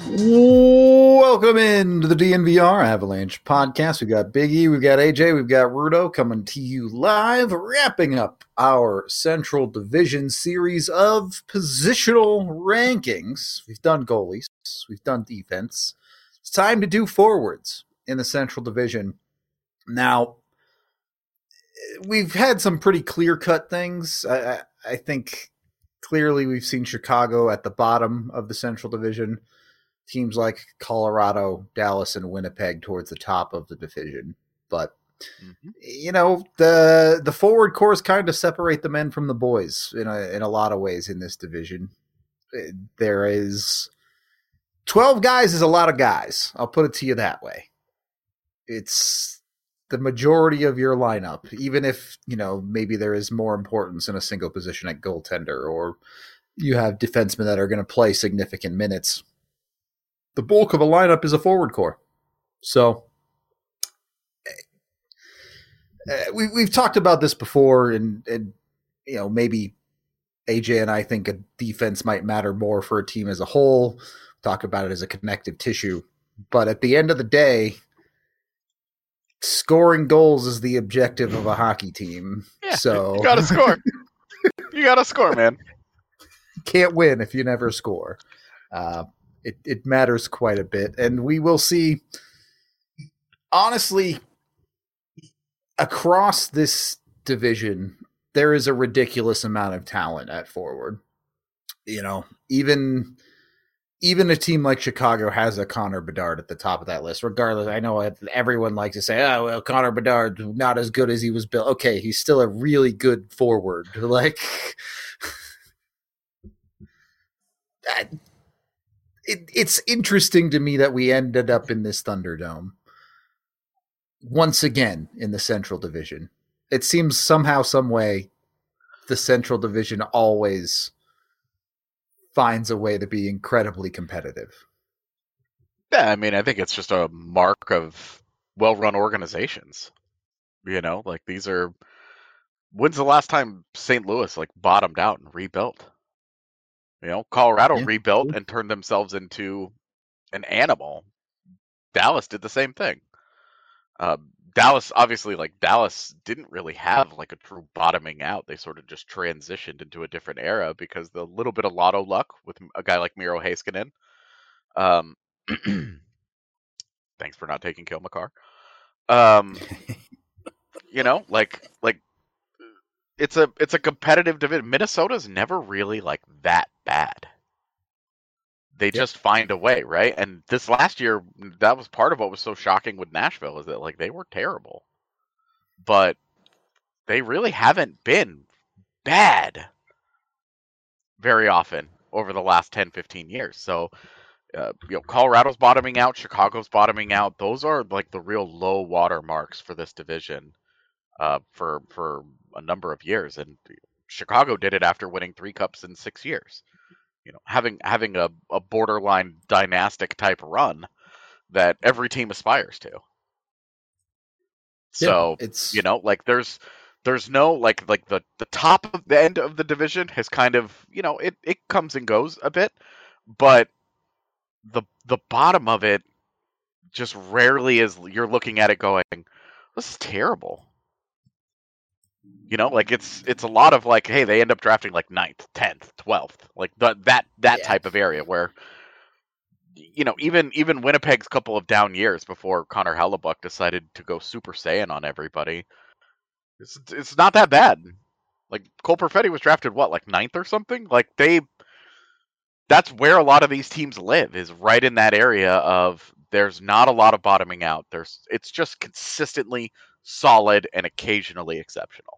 Welcome into the DNVR Avalanche podcast. We've got Big E, we've got AJ, we've got Rudo coming to you live, wrapping up our Central Division series of positional rankings. We've done goalies, we've done defense. It's time to do forwards in the Central Division. Now, we've had some pretty clear-cut things. I think clearly we've seen Chicago at the bottom of the Central Division. Teams like Colorado, Dallas, and Winnipeg towards the top of the division. But, you know, the forward cores kind of separate the men from the boys in a lot of ways in this division. There is 12 guys is a lot of guys. I'll put it to you that way. It's the majority of your lineup, even if, you know, maybe there is more importance in a single position at goaltender, or you have defensemen that are going to play significant minutes. The bulk of a lineup is a forward core. So we've talked about this before, and you know, maybe AJ and I think a defense might matter more for a team as a whole. Talk about it as a connective tissue. But at the end of the day, scoring goals is the objective of a hockey team. Yeah, so you gotta score. You gotta score, man. You can't win if you never score. It matters quite a bit. And we will see, honestly, across this division, there is a ridiculous amount of talent at forward. You know, even a team like Chicago has a Connor Bedard at the top of that list. Regardless, I know everyone likes to say, oh, well, Connor Bedard, not as good as he was built. Okay, he's still a really good forward. Like, It's interesting to me that we ended up in this Thunderdome once again in the Central Division. It seems somehow, some way, the Central Division always finds a way to be incredibly competitive. Yeah, I mean, I think it's just a mark of well-run organizations. You know, like these are. When's the last time St. Louis bottomed out and rebuilt? You know, Colorado rebuilt and turned themselves into an animal. Dallas did the same thing. Dallas, obviously, Dallas didn't really have a true bottoming out. They sort of just transitioned into a different era because the little bit of lotto luck with a guy like Miro Heiskanen. Thanks for not taking Kill McCarr. You know, it's a competitive division. Minnesota's never really that bad. They just find a way, right? And this last year, that was part of what was so shocking with Nashville, is that they were terrible, but they really haven't been bad very often over the last 10, 15 years. So, you know, Colorado's bottoming out, Chicago's bottoming out. Those are the real low water marks for this division for a number of years. And Chicago did it after winning 3 cups in 6 years. You know, having a borderline dynastic type run that every team aspires to. So it's, you know, there's no the top of the end of the division has kind of, you know, it comes and goes a bit, but the bottom of it just rarely is. You're looking at it going, this is terrible. You know, it's a lot of hey, they end up drafting 9th, 10th, 12th, that type of area where, you know, even Winnipeg's couple of down years before Connor Hellebuyck decided to go Super Saiyan on everybody, it's not that bad. Cole Perfetti was drafted 9th or something. That's where a lot of these teams live, is right in that area of there's not a lot of bottoming out. It's just consistently solid and occasionally exceptional.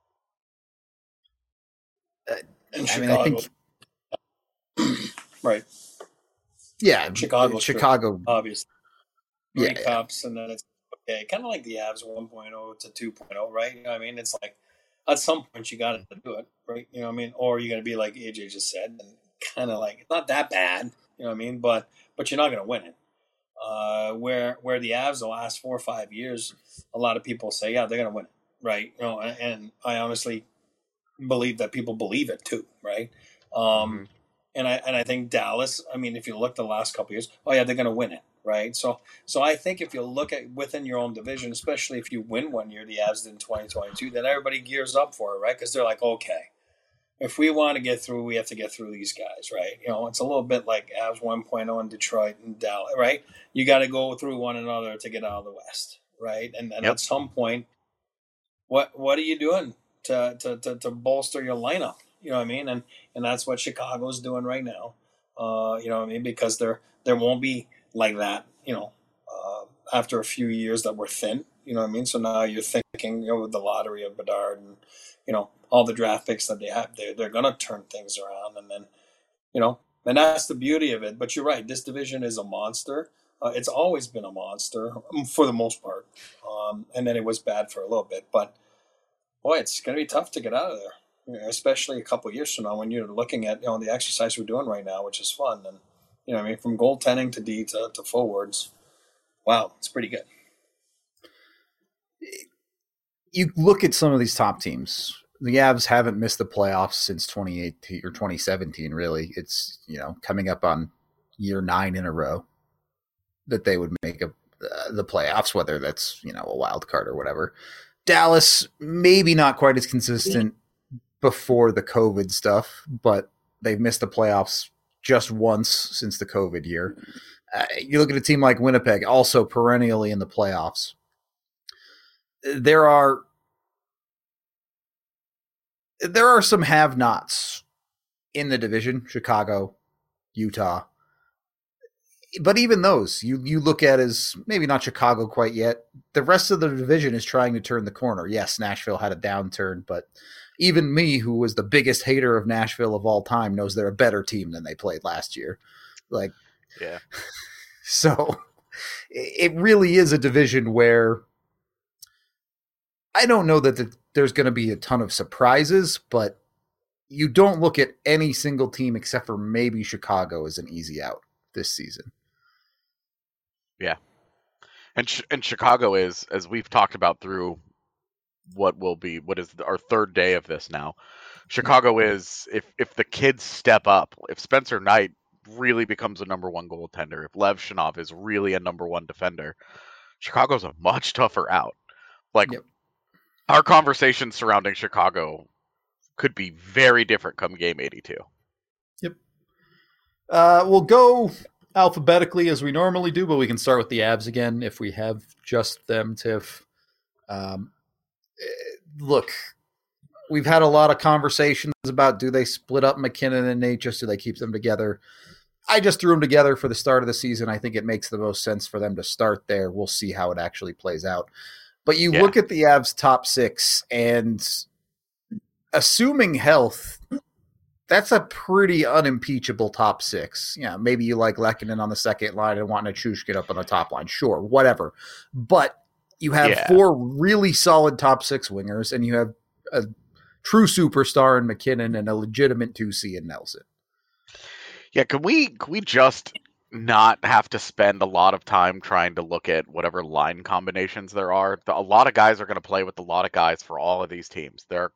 I think, right. Yeah, Chicago, obviously. 3 Yeah, cups, and then it's okay. Kind of like the Avs 1.0 to 2.0, right? I mean, it's at some point you got to do it, right? You know what I mean? Or you're going to be like AJ just said, and kind of it's not that bad, you know what I mean? But you're not going to win it. Where the Avs the last 4 or 5 years, a lot of people say, yeah, they're going to win it, right? You know, and I honestly believe that people believe it too, right? And I think Dallas, I mean, if you look the last couple of years, oh yeah, they're going to win it, right? So I think if you look at within your own division, especially if you win one year, the Avs did in 2022, then everybody gears up for it, right? Because they're like, okay, if we want to get through, we have to get through these guys, right? You know, it's a little bit like Avs 1.0 in Detroit and Dallas, right? You got to go through one another to get out of the West, right? And at some point, what are you doing to bolster your lineup? You know what I mean? And that's what Chicago's doing right now. You know what I mean? Because there won't be like that, you know, after a few years that we're thin. You know what I mean? So now you're thinking, you know, with the lottery of Bedard and, you know, all the draft picks that they have, they're going to turn things around. And then, you know, and that's the beauty of it. But you're right. This division is a monster. It's always been a monster for the most part. And then it was bad for a little bit. But, boy, it's going to be tough to get out of there. Especially a couple of years from now when you're looking at, you know, the exercise we're doing right now, which is fun. And, you know, I mean, from goaltending to D to forwards, wow, it's pretty good. You look at some of these top teams. The Avs haven't missed the playoffs since 2018 or 2017, really. It's, you know, coming up on year 9 in a row that they would make the playoffs, whether that's, you know, a wild card or whatever. Dallas, maybe not quite as consistent before the COVID stuff, but they've missed the playoffs just once since the COVID year. You look at a team like Winnipeg, also perennially in the playoffs. There are some have-nots in the division, Chicago, Utah. But even those, you look at as maybe not Chicago quite yet. The rest of the division is trying to turn the corner. Yes, Nashville had a downturn, but even me, who was the biggest hater of Nashville of all time, knows they're a better team than they played last year. Like, yeah. So it really is a division where I don't know that there's going to be a ton of surprises, but you don't look at any single team except for maybe Chicago as an easy out this season. Yeah. And Chicago is, as we've talked about through what is our third day of this now. Chicago is, if the kids step up, if Spencer Knight really becomes a number one goaltender, if Lev Shinov is really a number one defender, Chicago's a much tougher out. Like, our conversation surrounding Chicago could be very different come game 82. Yep. We'll go alphabetically as we normally do, but we can start with the Avs again if we have just them, Tiff. Look, we've had a lot of conversations about, do they split up McKinnon and Necas? Do they keep them together? I just threw them together for the start of the season. I think it makes the most sense for them to start there. We'll see how it actually plays out. But you look at the Avs top 6, and assuming health, that's a pretty unimpeachable top 6. Yeah, maybe you like Lehkonen on the second line and want Nichushkin up on the top line. Sure, whatever. But you have 4 really solid top 6 wingers, and you have a true superstar in McKinnon and a legitimate 2C in Nelson. Yeah, can we just not have to spend a lot of time trying to look at whatever line combinations there are? A lot of guys are going to play with a lot of guys for all of these teams. There's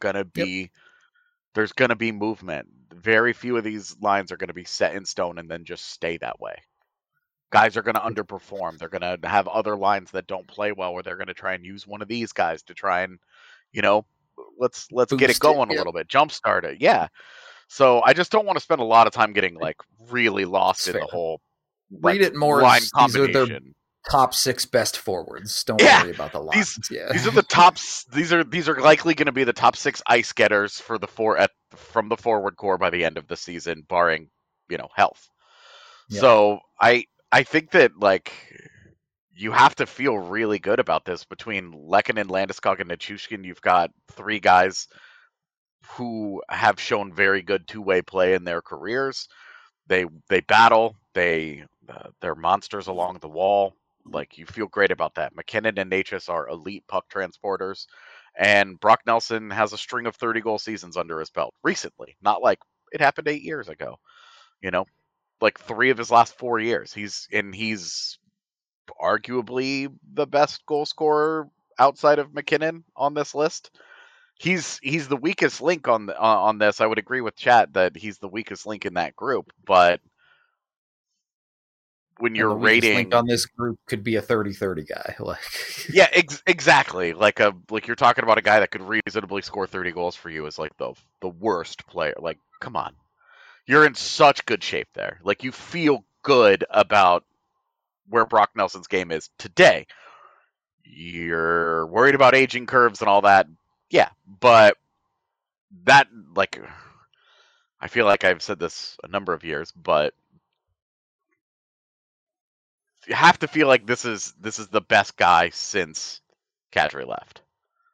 going to be movement. Very few of these lines are going to be set in stone and then just stay that way. Guys are going to underperform. They're going to have other lines that don't play well, where they're going to try and use one of these guys to try and, you know, let's get it going a little bit, jumpstart it. Yeah. So I just don't want to spend a lot of time getting like really lost in the whole read it more line combination. These are their top 6 best forwards. Don't worry about the lines. These are the tops. These are likely going to be the top 6 ice getters for from the forward core by the end of the season, barring, you know, health. Yeah. So I think that, like, you have to feel really good about this. Between Lehkonen, Landeskog, and Nichushkin, you've got 3 guys who have shown very good two-way play in their careers. They battle. They're monsters along the wall. Like, you feel great about that. McKinnon and Necas are elite puck transporters. And Brock Nelson has a string of 30-goal seasons under his belt recently. Not like it happened 8 years ago. You know? Like 3 of his last 4 years. He's arguably the best goal scorer outside of McKinnon on this list. he's the weakest link on this. I would agree with chat that he's the weakest link in that group, but when you're the weakest rating link on this group could be a 30-30 guy. Like, yeah, exactly. Like you're talking about a guy that could reasonably score 30 goals for you is like the worst player. Like, come on. You're in such good shape there. Like, you feel good about where Brock Nelson's game is today. You're worried about aging curves and all that. Yeah, but that, like, I feel like I've said this a number of years, but you have to feel like this is the best guy since Kadri left.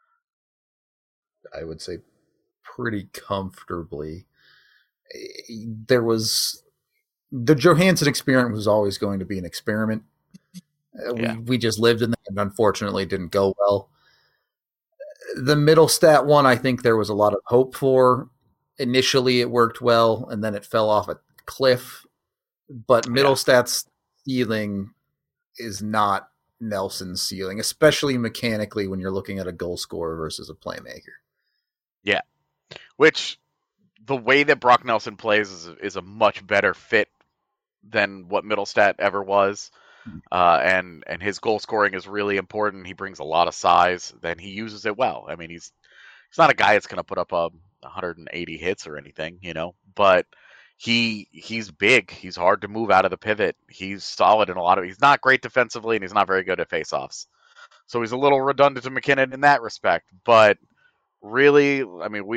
I would say pretty comfortably. There was the Johansson experiment was always going to be an experiment. Yeah. We just lived in that, and unfortunately, it didn't go well. The Middlestat one, I think there was a lot of hope for. Initially, it worked well, and then it fell off a cliff. But Middlestat's ceiling is not Nelson's ceiling, especially mechanically when you're looking at a goal scorer versus a playmaker. Yeah, which the way that Brock Nelson plays is a much better fit than what Middlestat ever was. And his goal scoring is really important. He brings a lot of size, then he uses it well. I mean, he's not a guy that's going to put up 180 hits or anything, but he's big. He's hard to move out of the pivot. He's solid in a lot of. He's not great defensively, and he's not very good at faceoffs. So he's a little redundant to McKinnon in that respect. But really, I mean,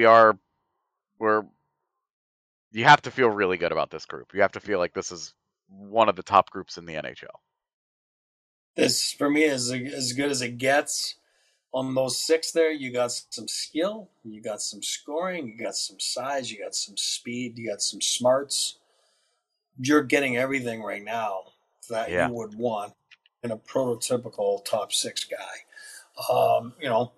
you have to feel really good about this group. You have to feel like this is one of the top groups in the NHL. This, for me, is as good as it gets. On those six there, you got some skill, you got some scoring, you got some size, you got some speed, you got some smarts. You're getting everything right now that you would want in a prototypical top six guy.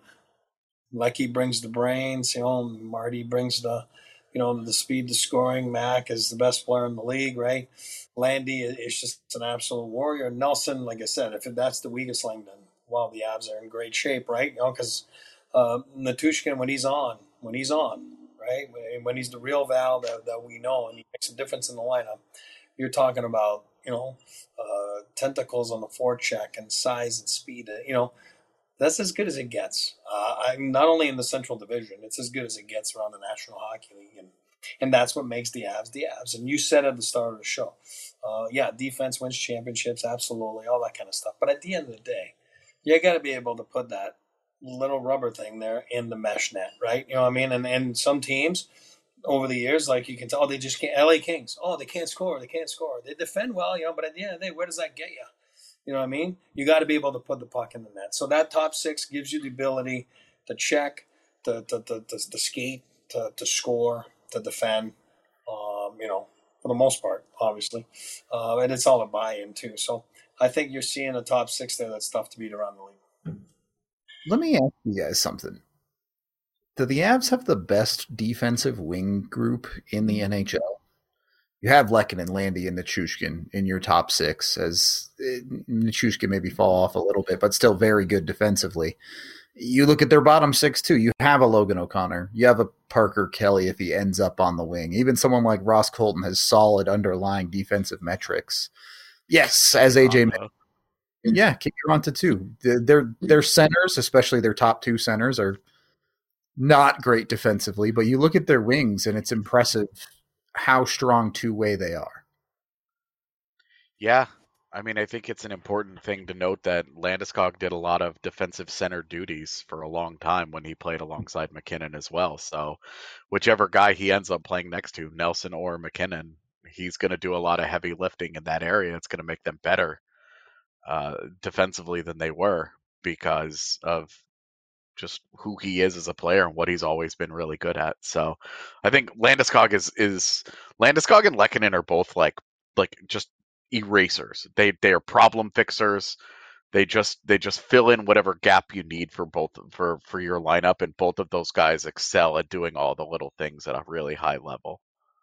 Lecky brings the brains, Marty brings the speed, the scoring. Mac is the best player in the league, right? Landy is just an absolute warrior. Nelson, like I said, if that's the weakest link, then wow, the Avs are in great shape, right? Because Nichushkin, when he's on, right? When he's the real Val that we know, and he makes a difference in the lineup, you're talking about tentacles on the forecheck and size and speed. That's as good as it gets. I'm not only in the Central Division; it's as good as it gets around the National Hockey League, and that's what makes the Avs the Avs. And you said at the start of the show, defense wins championships, absolutely, all that kind of stuff. But at the end of the day, you got to be able to put that little rubber thing there in the mesh net, right? You know what I mean? And some teams over the years, like you can tell, they just can't. LA Kings, they can't score. They can't score. They defend well, but at the end of the day, where does that get you? You know what I mean? You got to be able to put the puck in the net. So that top six gives you the ability to check, to skate, to score, to defend, for the most part, obviously. And it's all a buy-in, too. So I think you're seeing a top six there that's tough to beat around the league. Let me ask you guys something. Do the Avs have the best defensive wing group in the NHL? You have Lehkonen, Landy, and Nichushkin in your top six, as Nichushkin maybe fall off a little bit, but still very good defensively. You look at their bottom six, too. You have a Logan O'Connor. You have a Parker Kelly if he ends up on the wing. Even someone like Ross Colton has solid underlying defensive metrics. Yes, as AJ mentioned. Yeah, Kike Ranta, too. Their centers, especially their top two centers, are not great defensively, but you look at their wings, and it's impressive how strong two-way they are. Yeah. I mean, I think it's an important thing to note that Landeskog did a lot of defensive center duties for a long time when he played alongside McKinnon as well. So whichever guy he ends up playing next to, Nelson or McKinnon, he's going to do a lot of heavy lifting in that area. It's going to make them better defensively than they were because of just who he is as a player and what he's always been really good at. So I think Landeskog is Landeskog and Lehkonen are both like just erasers. They are problem fixers. They just fill in whatever gap you need for both for your lineup, and both of those guys excel at doing all the little things at a really high level.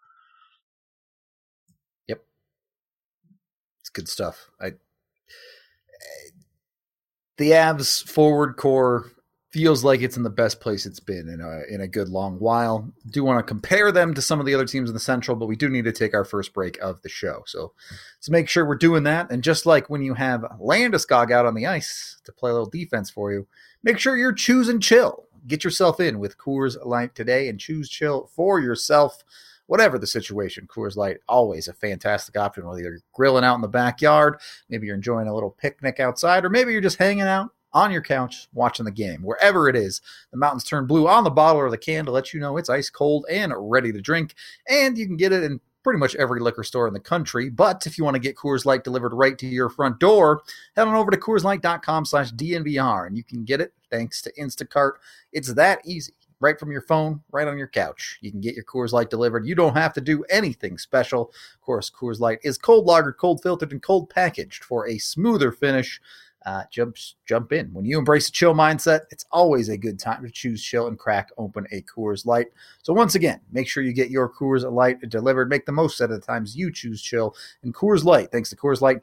Yep. It's good stuff. The Avs forward core feels like it's in the best place it's been in a good long while. Do want to compare them to some of the other teams in the Central, but we do need to take our first break of the show. So let's make sure we're doing that. And just like when you have Landeskog out on the ice to play a little defense for you, make sure you're choosing chill. Get yourself in with Coors Light today and choose chill for yourself. Whatever the situation, Coors Light, always a fantastic option, whether you're grilling out in the backyard, maybe you're enjoying a little picnic outside, or maybe you're just hanging out on your couch watching the game. Wherever it is, the mountains turn blue on the bottle or the can to let you know it's ice cold and ready to drink, and you can get it in pretty much every liquor store in the country. But if you want to get Coors Light delivered right to your front door, head on over to CoorsLight.com/DNVR, and you can get it thanks to Instacart. It's that easy. Right from your phone, right on your couch. You can get your Coors Light delivered. You don't have to do anything special. Of course, Coors Light is cold lagered, cold filtered, and cold packaged for a smoother finish. Jump in. When you embrace a chill mindset, it's always a good time to choose chill and crack open a Coors Light. So once again, make sure you get your Coors Light delivered. Make the most out of the times you choose chill. And Coors Light, thanks to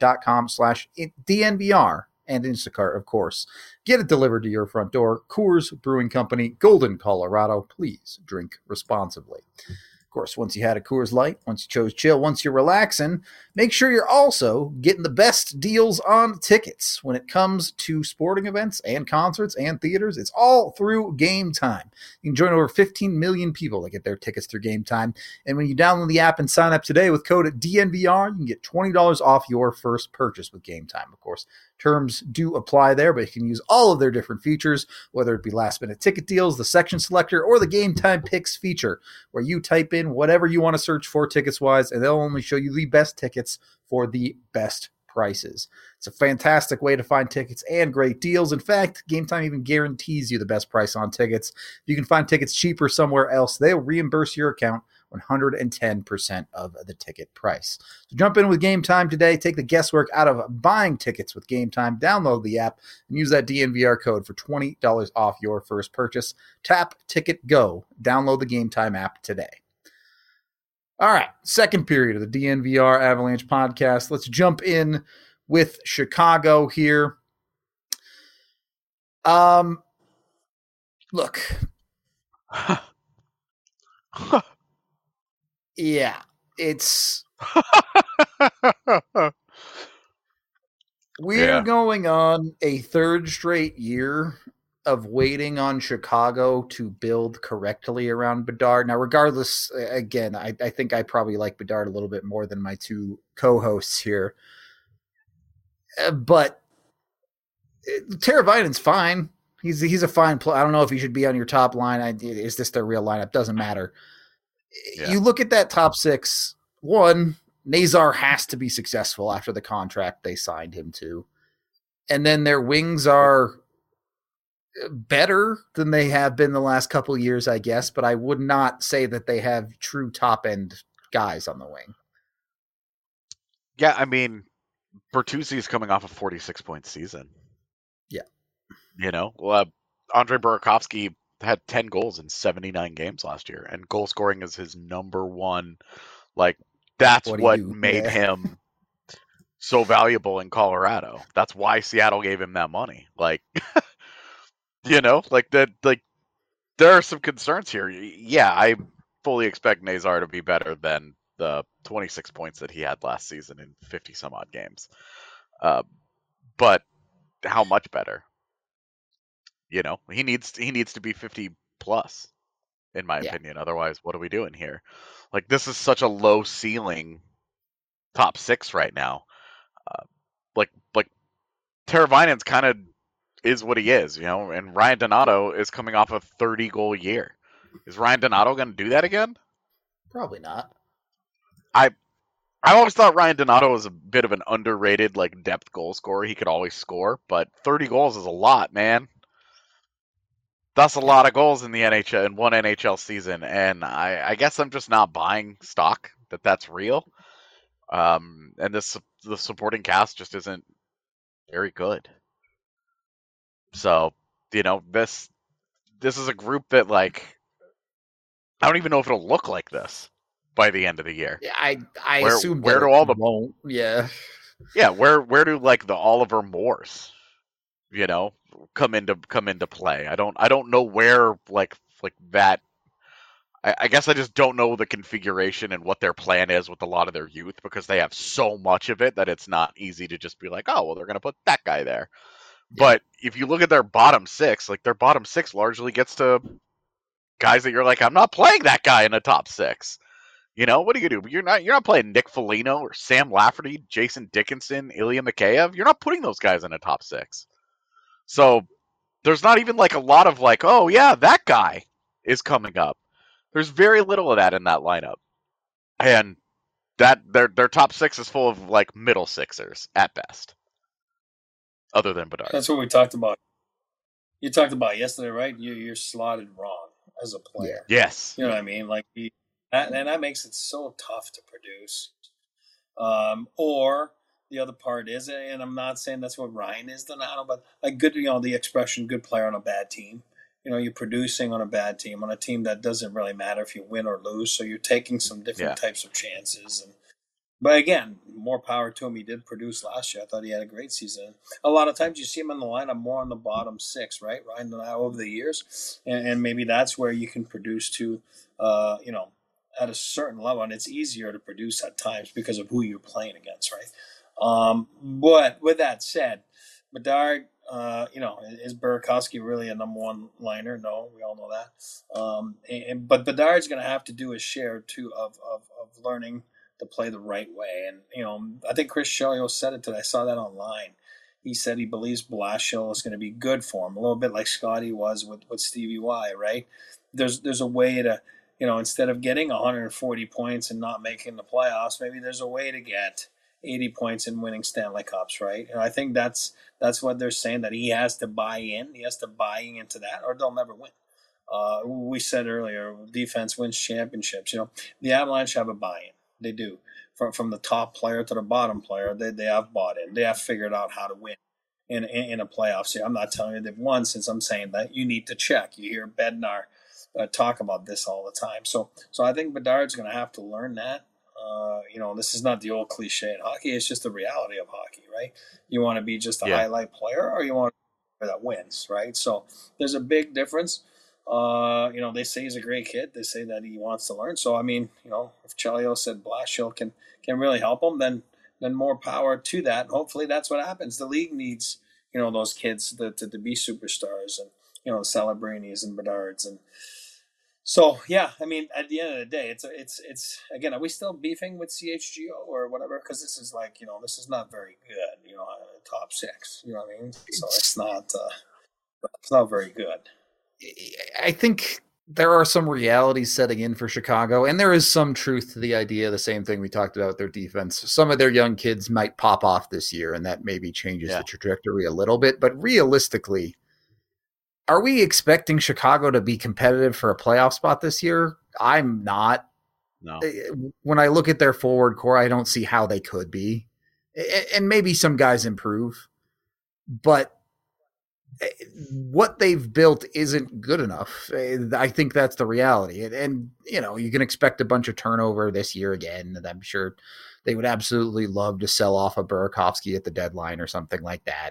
CoorsLight.com/DNVR and Instacart, of course. Get it delivered to your front door. Coors Brewing Company, Golden, Colorado. Please drink responsibly. Of course, once you had a Coors Light, once you chose chill, once you're relaxing, make sure you're also getting the best deals on tickets when it comes to sporting events and concerts and theaters. It's all through Game Time. You can join over 15 million people that get their tickets through Game Time. And when you download the app and sign up today with code DNVR, you can get $20 off your first purchase with Game Time. Of course, terms do apply there, but you can use all of their different features, whether it be last-minute ticket deals, the section selector, or the Game Time Picks feature, where you type in whatever you want to search for tickets-wise, and they'll only show you the best tickets for the best prices. It's a fantastic way to find tickets and great deals. In fact, Game Time even guarantees you the best price on tickets. If you can find tickets cheaper somewhere else, they'll reimburse your account 110% of the ticket price. So jump in with Game Time today. Take the guesswork out of buying tickets with Game Time. Download the app and use that DNVR code for $20 off your first purchase. Tap Ticket Go. Download the Game Time app today. All right, second period of the DNVR Avalanche podcast. Let's jump in with Chicago here. Look. Yeah, it's we're going on a third straight year of waiting on Chicago to build correctly around Bedard. Now, regardless, again, I think I probably like Bedard a little bit more than my two co-hosts here. But Teravainen's fine. He's a fine player. I don't know if he should be on your top line. Is this their real lineup? Doesn't matter. Yeah. You look at that top six. One, Nazar has to be successful after the contract they signed him to. And then their wings are better than they have been the last couple of years, I guess, but I would not say that they have true top-end guys on the wing. Yeah, I mean, Bertuzzi is coming off a 46-point season. Yeah. You know, Andre Burakovsky had 10 goals in 79 games last year, and goal scoring is his number one. Like, that's what made him so valuable in Colorado. That's why Seattle gave him that money. Like, you know, like that. Like, there are some concerns here. Yeah, I fully expect Nazar to be better than the 26 points that he had last season in 50 some odd games. But how much better? You know, he needs to be 50 plus, in my opinion. Otherwise, what are we doing here? Like, this is such a low ceiling top six right now. Like Teravainen's kind of is what he is, you know, and Ryan Donato is coming off a 30-goal year. Is Ryan Donato going to do that again? Probably not. I always thought Ryan Donato was a bit of an underrated, like, depth goal scorer. He could always score, but 30 goals is a lot, man. That's a lot of goals in the NHL in one NHL season, and I guess I'm just not buying stock that that's real. And the supporting cast just isn't very good. So, you know, this is a group that, like, I don't even know if it'll look like this by the end of the year. Yeah, I assume where do all the won't. Yeah. Yeah, where do, like, the Oliver Moores come into play. I don't know where like that. I guess I just don't know the configuration and what their plan is with a lot of their youth because they have so much of it that it's not easy to just be like, oh, well, they're going to put that guy there. Yeah. But if you look at their bottom six, like their bottom six largely gets to guys that you're like, I'm not playing that guy in the top six. What are you gonna do? You're not playing Nick Foligno or Sam Lafferty, Jason Dickinson, Ilya Mikheyev. You're not putting those guys in the top six. So there's not even like a lot of like, oh yeah, that guy is coming up. There's very little of that in that lineup, and that their top six is full of like middle sixers at best, other than Bedard. That's what we talked about. You talked about yesterday, right? You're slotted wrong as a player. Yeah. Yes. You know what I mean? Like, and that makes it so tough to produce. Or the other part is, and I'm not saying that's what Ryan is, Donato, but like good, the expression "good player on a bad team." You're producing on a bad team, on a team that doesn't really matter if you win or lose. So you're taking some different types of chances. But again, more power to him. He did produce last year. I thought he had a great season. A lot of times you see him in the lineup more on the bottom six, right? Ryan Donato over the years. And maybe that's where you can produce to, at a certain level. And it's easier to produce at times because of who you're playing against, right? But with that said, Bedard, is Burakovsky really a number one liner? No, we all know that. But Bedard's going to have to do his share too of learning to play the right way. And I think Chris Chelios said it today. I saw that online. He said he believes Blashill is going to be good for him, a little bit like Scotty was with Stevie Y. Right? There's a way to instead of getting 140 points and not making the playoffs, maybe there's a way to get 80 points and winning Stanley Cups, right? And I think that's what they're saying, that he has to buy in. He has to buy into that, or they'll never win. We said earlier, defense wins championships. The Avalanche have a buy-in. They do. From the top player to the bottom player, they have bought in. They have figured out how to win in a playoff series. I'm not telling you they've won, since I'm saying that you need to check. You hear Bednar talk about this all the time. So I think Bedard's going to have to learn that. This is not the old cliche in hockey. It's just the reality of hockey, right? You want to be just a highlight player, or you want to be that wins, right? So there's a big difference. They say he's a great kid. They say that he wants to learn. So, I mean, if Chelios said Blashill can really help him, then more power to that. And hopefully that's what happens. The league needs, those kids to be superstars, and, the Celebrinis and Bedards. And so, yeah, I mean, at the end of the day, it's again, are we still beefing with CHGO or whatever? Because this is like, this is not very good, top six, you know what I mean? So it's not very good. I think there are some realities setting in for Chicago, and there is some truth to the idea, the same thing we talked about with their defense. Some of their young kids might pop off this year, and that maybe changes the trajectory a little bit. But realistically, are we expecting Chicago to be competitive for a playoff spot this year? I'm not. No. When I look at their forward core, I don't see how they could be. And maybe some guys improve, but what they've built isn't good enough. I think that's the reality. And you can expect a bunch of turnover this year again, and I'm sure they would absolutely love to sell off a Burakovsky at the deadline or something like that.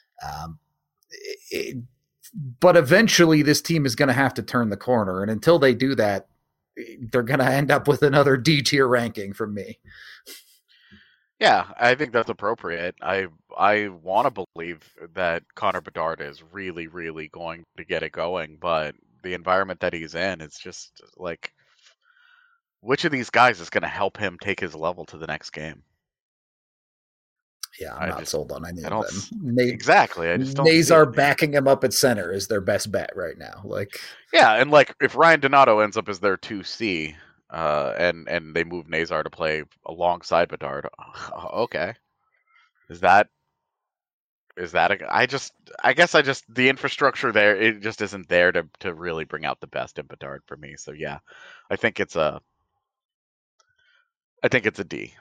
But eventually this team is going to have to turn the corner. And until they do that, they're going to end up with another D tier ranking from me. Yeah, I think that's appropriate. I want to believe that Connor Bedard is really, really going to get it going, but the environment that he's in, it's just like, which of these guys is going to help him take his level to the next game? Yeah, I'm not sold on any of them. Exactly. I just don't. Nazar backing him up at center is their best bet right now. Yeah, and if Ryan Donato ends up as their 2C, and they move Nazar to play alongside Bedard, okay, is that I guess the infrastructure there, it just isn't there to really bring out the best in Bedard for me. So yeah, I think it's a D.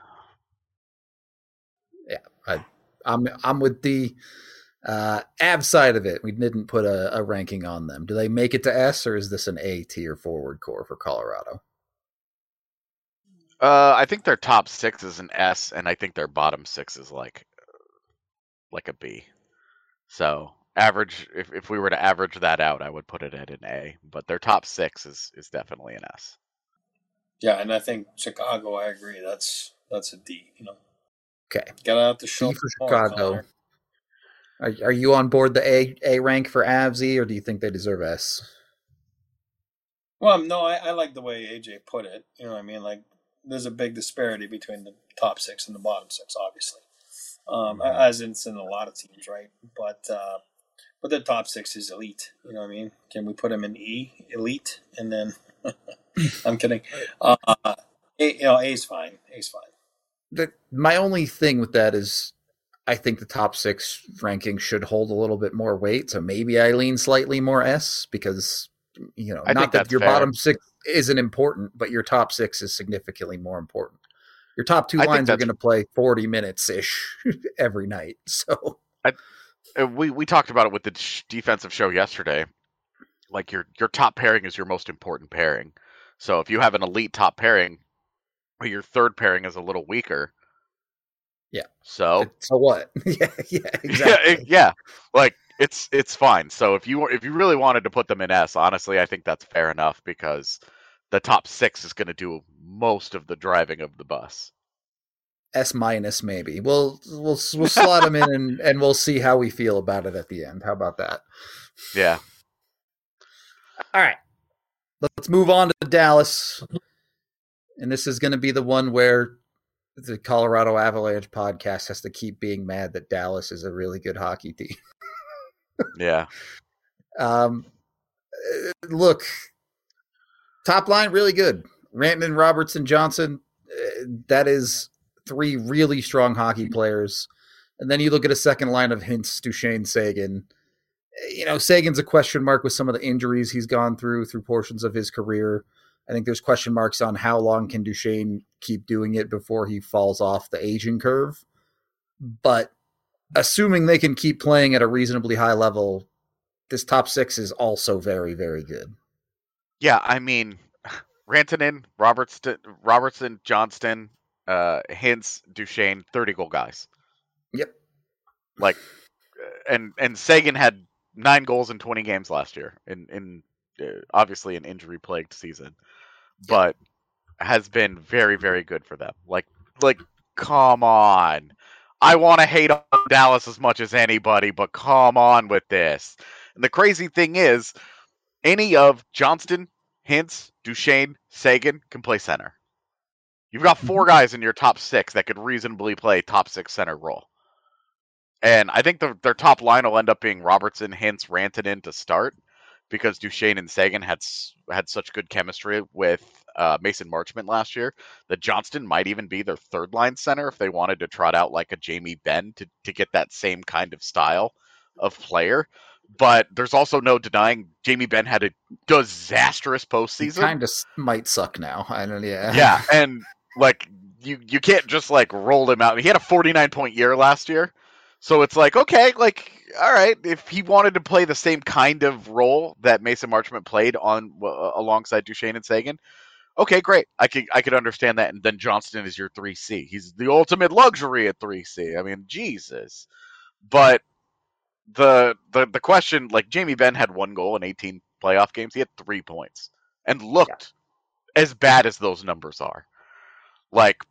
Yeah, I'm with the Av side of it. We didn't put a ranking on them. Do they make it to S, or is this an A tier forward core for Colorado? I think their top six is an S, and I think their bottom six is like a B. So average, if we were to average that out, I would put it at an A. But their top 6 is definitely an S. Yeah, and I think Chicago, I agree. That's a D. Okay. Get out the show D for more, Chicago. Connor. Are you on board the A rank for Avsy, or do you think they deserve S? Well, no, I like the way AJ put it. You know what I mean? Like, there's a big disparity between the top 6 and the bottom 6, obviously. As it's in a lot of teams, right? But the top 6 is elite. You know what I mean? Can we put them in E, elite, and then I'm kidding. A is fine. A's fine. My only thing with that is I think the top 6 ranking should hold a little bit more weight. So maybe I lean slightly more S because, I not that your fair. bottom 6 isn't important, but your top 6 is significantly more important. Your top 2 lines are going to play 40 minutes-ish every night. So we talked about it with the defensive show yesterday. Like your top pairing is your most important pairing. So if you have an elite top pairing, but your third pairing is a little weaker. Yeah. So what? yeah, exactly. Yeah. Like it's fine. So if you really wanted to put them in S, honestly, I think that's fair enough because the top 6 is going to do most of the driving of the bus. S minus maybe. We'll slot them in and we'll see how we feel about it at the end. How about that? Yeah. All right. Let's move on to Dallas. And this is going to be the one where the Colorado Avalanche podcast has to keep being mad that Dallas is a really good hockey team. Yeah. Look, top line really good. Rantanen, Robertson, Johnson. That is 3 really strong hockey players. And then you look at a second line of Hintz, Duchesne, Seguin. Sagan's a question mark with some of the injuries he's gone through portions of his career. I think there's question marks on how long can Duchesne keep doing it before he falls off the aging curve. But assuming they can keep playing at a reasonably high level, this top 6 is also very, very good. Yeah, I mean, Rantanen, Robertson, Johnston, Hintz, Duchesne, 30-goal guys. Yep. Like, and Seguin had 9 goals in 20 games last year in obviously an injury-plagued season, but has been very, very good for them. Like, come on. I want to hate on Dallas as much as anybody, but come on with this. And the crazy thing is, any of Johnston, Hintz, Duchesne, Seguin can play center. You've got 4 guys in your top 6 that could reasonably play top 6 center role. And I think their top line will end up being Robertson, Hintz, Rantanen to start because Duchesne and Seguin had such good chemistry with Mason Marchment last year that Johnston might even be their third line center if they wanted to trot out like a Jamie Benn to get that same kind of style of player. But there's also no denying Jamie Benn had a disastrous postseason. He kind of might suck now. I don't know. Yeah. Yeah, and like you can't just like roll him out. He had a 49-point year last year. So it's like, okay, like, all right, if he wanted to play the same kind of role that Mason Marchment played on alongside Duchesne and Seguin, okay, great. I could understand that. And then Johnston is your 3C. He's the ultimate luxury at 3C. I mean, Jesus. But the question, like, Jamie Benn had 1 goal in 18 playoff games. He had 3 points and looked as bad as those numbers are. Like,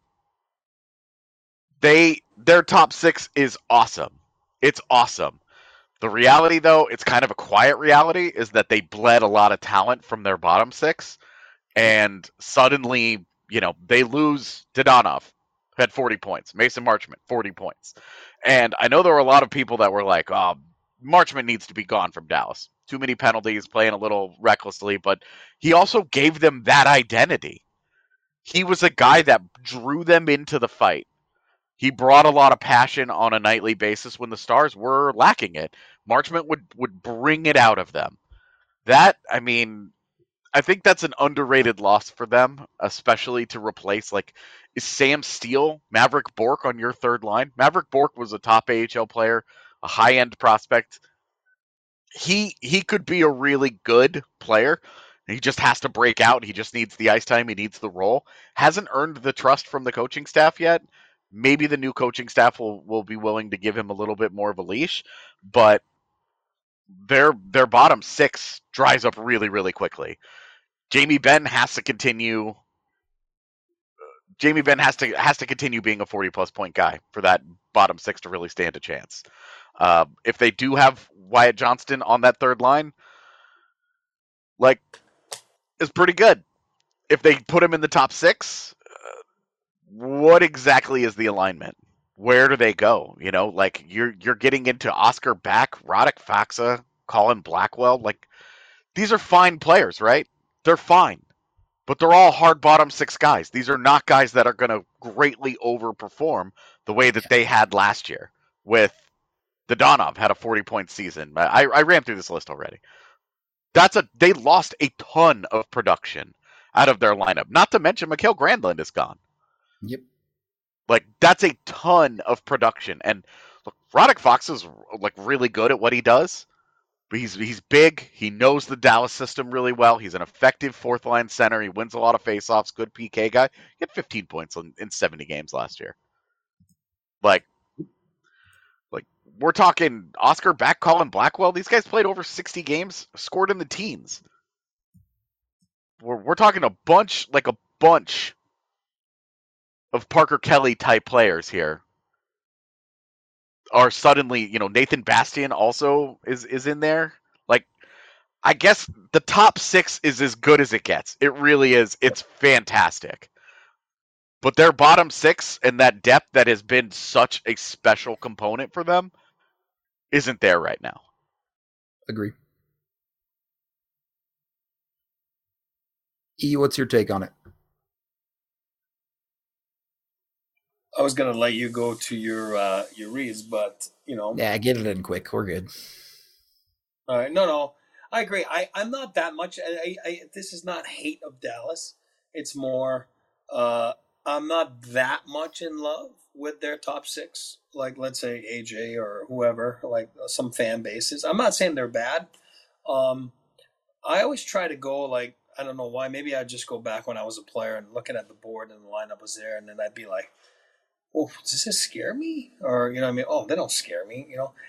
their top 6 is awesome. It's awesome. The reality, though, it's kind of a quiet reality, is that they bled a lot of talent from their bottom 6, and suddenly, they lose Dadonov, who had 40 points. Mason Marchment, 40 points. And I know there were a lot of people that were like, oh, Marchment needs to be gone from Dallas. Too many penalties, playing a little recklessly, but he also gave them that identity. He was a guy that drew them into the fight. He brought a lot of passion on a nightly basis when the Stars were lacking it. Marchment would bring it out of them. That, I mean, I think that's an underrated loss for them, especially to replace, like, is Sam Steele, Maverick Bourque on your third line? Maverick Bourque was a top AHL player, a high-end prospect. He could be a really good player. He just has to break out. He just needs the ice time. He needs the role. Hasn't earned the trust from the coaching staff yet. Maybe the new coaching staff will be willing to give him a little bit more of a leash, but their bottom six dries up really, really quickly. Jamie Benn has to continue being a 40-plus point guy for that bottom six to really stand a chance. If they do have Wyatt Johnston on that third line, like, it's pretty good. If they put him in the top six, what exactly is the alignment? Where do they go? You know, like, you're getting into Oscar Back, Roddick Faksa, Colin Blackwell. Like, these are fine players, right? They're fine. But they're all hard bottom six guys. These are not guys that are going to greatly overperform the way that they had last year with Dadonov had a 40-point season. I ran through this list already. They lost a ton of production out of their lineup. Not to mention Mikael Granlund is gone. Yep. Like, that's a ton of production. And look, Roddick Fox is like really good at what he does. But he's big. He knows the Dallas system really well. He's an effective fourth line center. He wins a lot of faceoffs. Good PK guy. He had 15 points in 70 games last year. Like we're talking Oscar Back, Colin Blackwell. These guys played over 60 games, scored in the teens. We're talking a bunch of Parker Kelly type players here. Are suddenly, Nathan Bastian also is in there. Like, I guess the top six is as good as it gets. It really is. It's fantastic. But their bottom six and that depth that has been such a special component for them isn't there right now. Agree. E, what's your take on it? I was gonna let you go to your reads, but Yeah, get it in quick. We're good. All right, no, I agree. I'm not that much. This is not hate of Dallas. It's more I'm not that much in love with their top six. Like, let's say AJ or whoever, like some fan bases. I'm not saying they're bad. I always try to go like, I don't know why. Maybe I'd just go back when I was a player and looking at the board and the lineup was there, and then I'd be like, oh, does this scare me? Or, what I mean? Oh, they don't scare me,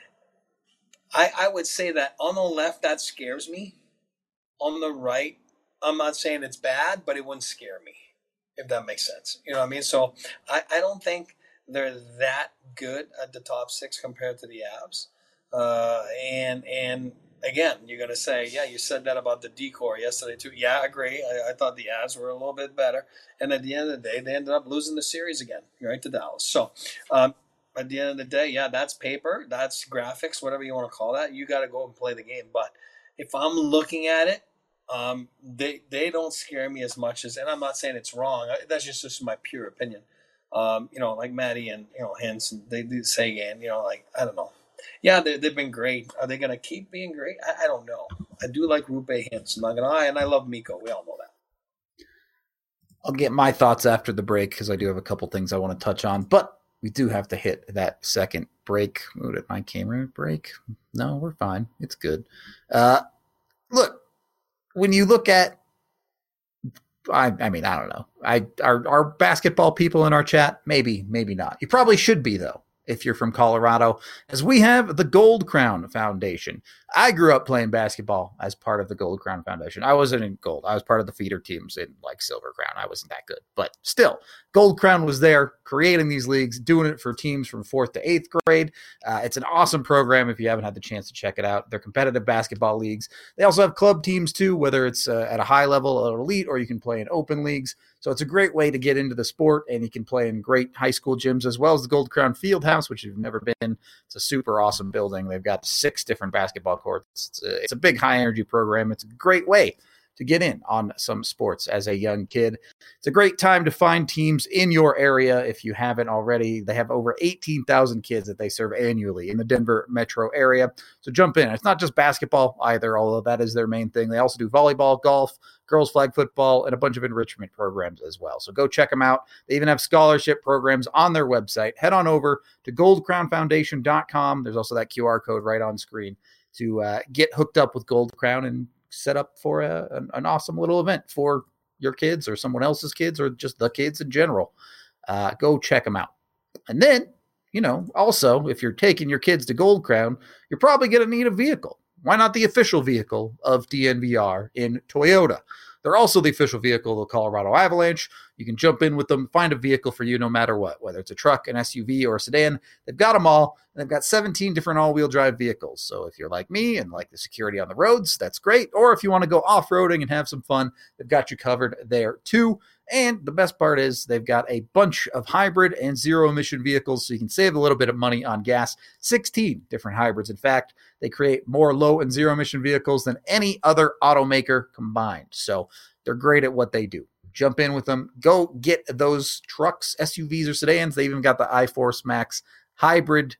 I would say that on the left, that scares me. On the right, I'm not saying it's bad, but it wouldn't scare me, if that makes sense. You know what I mean? So I don't think they're that good at the top six compared to the Avs. And again, you're going to say, yeah, you said that about the decor yesterday too. Yeah, I agree. I thought the Avs were a little bit better. And at the end of the day, they ended up losing the series again, right, to Dallas. So at the end of the day, yeah, that's paper, that's graphics, whatever you want to call that. You got to go and play the game. But if I'm looking at it, they don't scare me as much as, and I'm not saying it's wrong. That's just my pure opinion. Like Maddie and Hintz, and they do say again, like, I don't know. Yeah, they've been great. Are they going to keep being great? I don't know. I do like Rupe Hintz. I'm not going to lie, and I love Mikko. We all know that. I'll get my thoughts after the break because I do have a couple things I want to touch on, but we do have to hit that second break. Oh, did my camera break? No, we're fine. It's good. Look, when you look at, I mean, I don't know. Our basketball people in our chat, maybe not. You probably should be, though, if you're from Colorado, as we have the Gold Crown Foundation. I grew up playing basketball as part of the Gold Crown Foundation. I wasn't in gold. I was part of the feeder teams in like Silver Crown. I wasn't that good, but still, Gold Crown was there creating these leagues, doing it for teams from 4th to 8th grade. It's an awesome program if you haven't had the chance to check it out. They're competitive basketball leagues. They also have club teams too, whether it's at a high level or elite, or you can play in open leagues. So it's a great way to get into the sport, and you can play in great high school gyms as well as the Gold Crown Fieldhouse, which you've never been. It's a super awesome building. They've got 6 different basketball courts. It's a big high-energy program. It's a great way to get in on some sports as a young kid. It's a great time to find teams in your area if you haven't already. They have over 18,000 kids that they serve annually in the Denver metro area. So jump in. It's not just basketball either, although that is their main thing. They also do volleyball, golf, girls flag football, and a bunch of enrichment programs as well. So go check them out. They even have scholarship programs on their website. Head on over to goldcrownfoundation.com. There's also that QR code right on screen to get hooked up with Gold Crown and set up for an awesome little event for your kids or someone else's kids or just the kids in general. Go check them out. And then, also, if you're taking your kids to Gold Crown, you're probably going to need a vehicle. Why not the official vehicle of DNVR in Toyota? They're also the official vehicle of the Colorado Avalanche. You can jump in with them, find a vehicle for you no matter what, whether it's a truck, an SUV, or a sedan. They've got them all, and they've got 17 different all-wheel drive vehicles. So if you're like me and like the security on the roads, that's great. Or if you want to go off-roading and have some fun, they've got you covered there too. And the best part is they've got a bunch of hybrid and zero-emission vehicles, so you can save a little bit of money on gas. 16 different hybrids. In fact, they create more low and zero-emission vehicles than any other automaker combined. So they're great at what they do. Jump in with them. Go get those trucks, SUVs, or sedans. They even got the iForce Max hybrid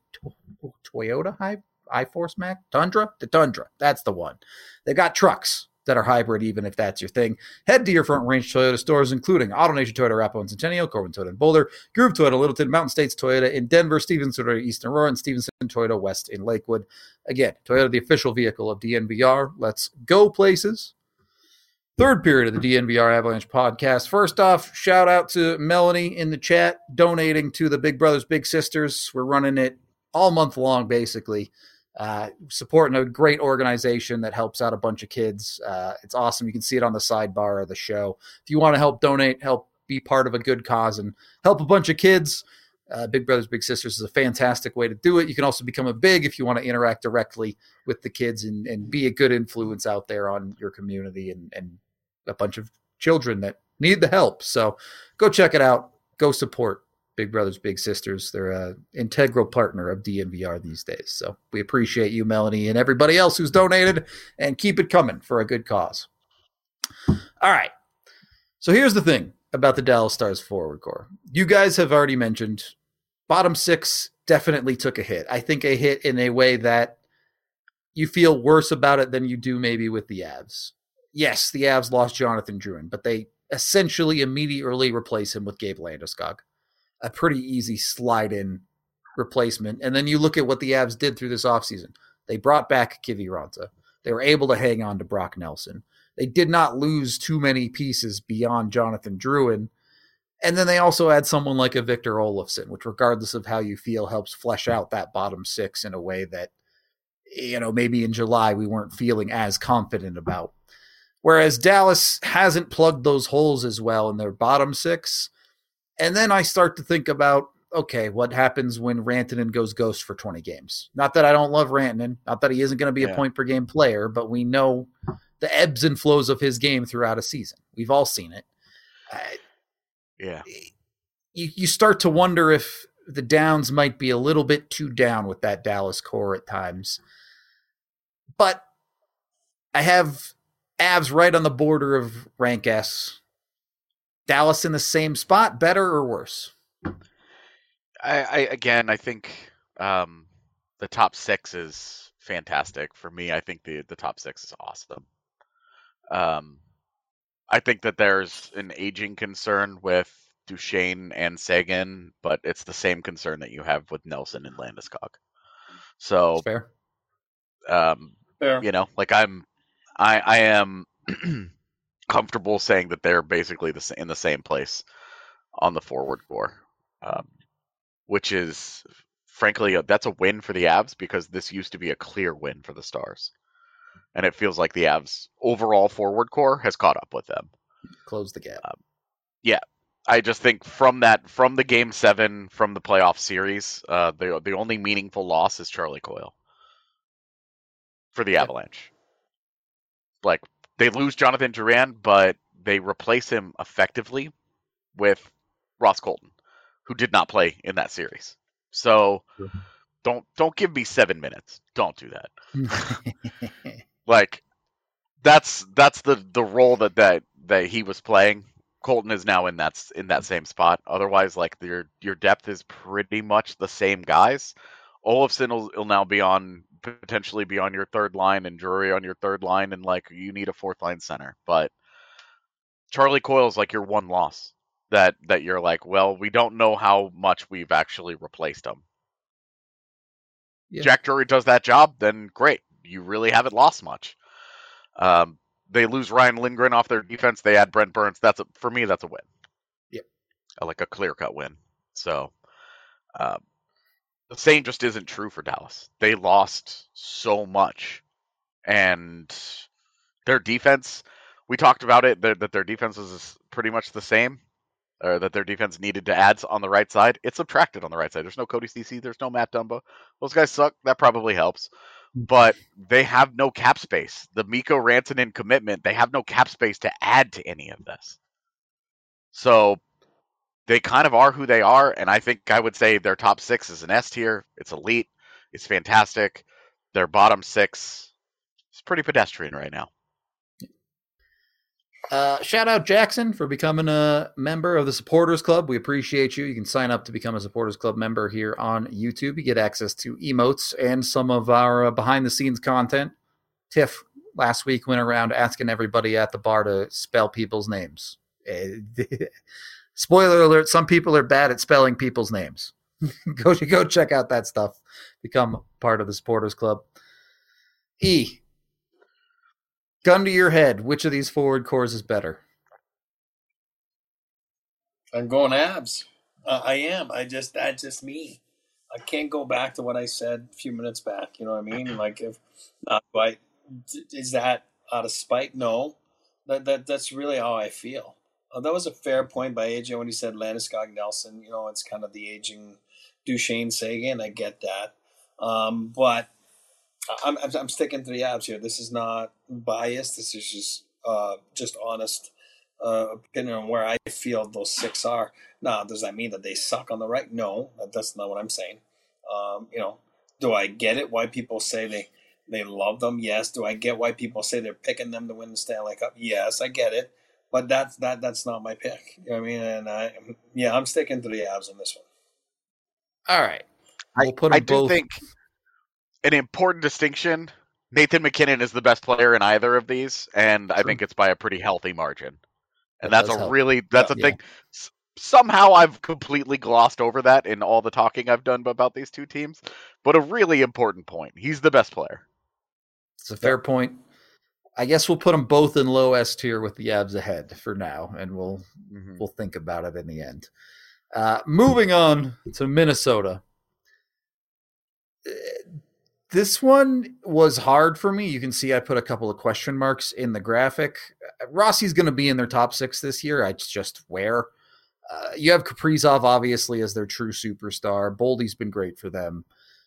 Toyota iForce Max Tundra. The Tundra. That's the one. They've got trucks that are hybrid, even if that's your thing. Head to your Front Range Toyota stores, including AutoNation Toyota, Arapahoe and Centennial, Corbin Toyota in Boulder, Groove Toyota, Littleton, Mountain States Toyota in Denver, Stevens Toyota, Eastern Aurora, and Stevenson Toyota West in Lakewood. Again, Toyota, the official vehicle of DNVR. Let's go places. Third period of the DNVR Avalanche podcast. First off, shout out to Melanie in the chat, donating to the Big Brothers Big Sisters. We're running it all month long, basically. Supporting a great organization that helps out a bunch of kids. It's awesome. You can see it on the sidebar of the show. If you want to help donate, help be part of a good cause, and help a bunch of kids, Big Brothers Big Sisters is a fantastic way to do it. You can also become a big if you want to interact directly with the kids and be a good influence out there on your community and a bunch of children that need the help. So go check it out. Go support Big Brothers Big Sisters. They're an integral partner of DNVR these days. So we appreciate you, Melanie, and everybody else who's donated, and keep it coming for a good cause. All right. So here's the thing about the Dallas Stars forward core. You guys have already mentioned bottom six definitely took a hit. I think a hit in a way that you feel worse about it than you do maybe with the Avs. Yes, the Avs lost Jonathan Drouin, but they essentially immediately replace him with Gabe Landeskog. A pretty easy slide-in replacement. And then you look at what the Avs did through this offseason. They brought back Kiviranta. They were able to hang on to Brock Nelson. They did not lose too many pieces beyond Jonathan Drouin. And then they also had someone like a Victor Olofsson, which regardless of how you feel, helps flesh out that bottom six in a way that, maybe in July we weren't feeling as confident about. Whereas Dallas hasn't plugged those holes as well in their bottom six. And then I start to think about, okay, what happens when Rantanen goes ghost for 20 games? Not that I don't love Rantanen, not that he isn't going to be a point-per-game player, but we know the ebbs and flows of his game throughout a season. We've all seen it. You start to wonder if the downs might be a little bit too down with that Dallas core at times. But I have Avs right on the border of rank S. Dallas in the same spot, better or worse? I think the top six is fantastic. For me, I think the top six is awesome. I think that there's an aging concern with Duchesne and Seguin, but it's the same concern that you have with Nelson and Landeskog. So that's fair. I am comfortable saying that they're basically in the same place on the forward core, which is, frankly, that's a win for the Avs because this used to be a clear win for the Stars. And it feels like the Avs' overall forward core has caught up with them. Close the gap. I just think from the Game 7, from the playoff series, the only meaningful loss is Charlie Coyle for the Avalanche. Like, they lose Jonathan Drouin, but they replace him effectively with Ross Colton, who did not play in that series. So don't give me 7 minutes. Don't do that. Like, that's the role that he was playing. Colton is now in that same spot. Otherwise, like, your depth is pretty much the same guys. Olofsson will now potentially be on your third line, and Drury on your third line, and like you need a fourth line center. But Charlie Coyle is like your one loss that you're like, well, we don't know how much we've actually replaced him. Yeah. Jack Drury does that job, then great. You really haven't lost much. They lose Ryan Lindgren off their defense. They add Brent Burns. For me, that's a win. Yep. Like a clear-cut win. So the same just isn't true for Dallas. They lost so much and their defense, we talked about it, that their defense was pretty much the same, or that their defense needed to add on the right side. It's subtracted on the right side. There's no Cody Cece. There's no Matt Dumba. Those guys suck. That probably helps. But they have no cap space. The Mikko Rantanen commitment, they have no cap space to add to any of this. So they kind of are who they are, and I think I would say their top 6 is an S tier. It's elite. It's fantastic. Their bottom 6 is pretty pedestrian right now. Shout out Jackson for becoming a member of the Supporters Club. We appreciate you. You can sign up to become a Supporters Club member here on YouTube. You get access to emotes and some of our behind-the-scenes content. Tiff last week went around asking everybody at the bar to spell people's names. Spoiler alert, some people are bad at spelling people's names. Go check out that stuff. Become part of the Supporters Club. Gun to your head, which of these forward cores is better? I'm going Abs. I am. That's just me. I can't go back to what I said a few minutes back. You know what I mean? Like, if is that out of spite? No, that's really how I feel. That was a fair point by AJ when he said Landeskog Nelson. You know, it's kind of the aging Duchesne Sagan. I get that, but I'm sticking to the Abs here. This is not biased. This is just honest opinion on where I feel those 6 are. Now, does that mean that they suck on the right? No, that's not what I'm saying. Do I get it? Why people say they love them? Yes. Do I get why people say they're picking them to win the Stanley Cup? Yes, I get it. But that's not my pick. You know what I mean? And I'm sticking to the Abs on this one. All right. We'll put them I do think an important distinction, Nathan MacKinnon is the best player in either of these, and I think it's by a pretty healthy margin. And that's a thing. Somehow I've completely glossed over that in all the talking I've done about these two teams, but a really important point. He's the best player. It's a fair point. I guess we'll put them both in low S tier with the Abs ahead for now, and we'll think about it in the end. Moving on to Minnesota. This one was hard for me. You can see I put a couple of question marks in the graphic. Rossi's going to be in their top 6 this year. It's just where. You have Kaprizov, obviously, as their true superstar. Boldy's been great for them.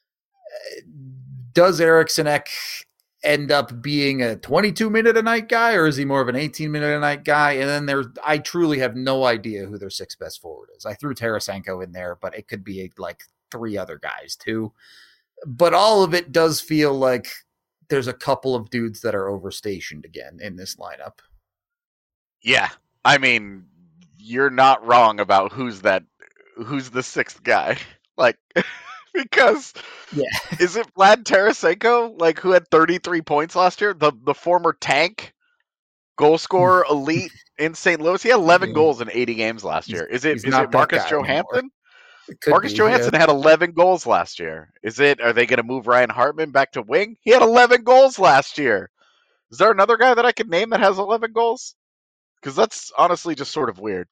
Does Eriksson end up being a 22-minute-a-night guy, or is he more of an 18-minute-a-night guy? And then I truly have no idea who their 6th best forward is. I threw Tarasenko in there, but it could be like 3 other guys, too. But all of it does feel like there's a couple of dudes that are overstationed again in this lineup. Yeah. I mean, you're not wrong about who's the 6th guy. Like, because is it Vlad Tarasenko, like, who had 33 points last year? The former tank goal scorer elite in St. Louis? He had 11 goals in 80 games last year. Is it Marcus Johansson? Marcus Johansson had 11 goals last year. Are they going to move Ryan Hartman back to wing? He had 11 goals last year. Is there another guy that I could name that has 11 goals? Because that's honestly just sort of weird.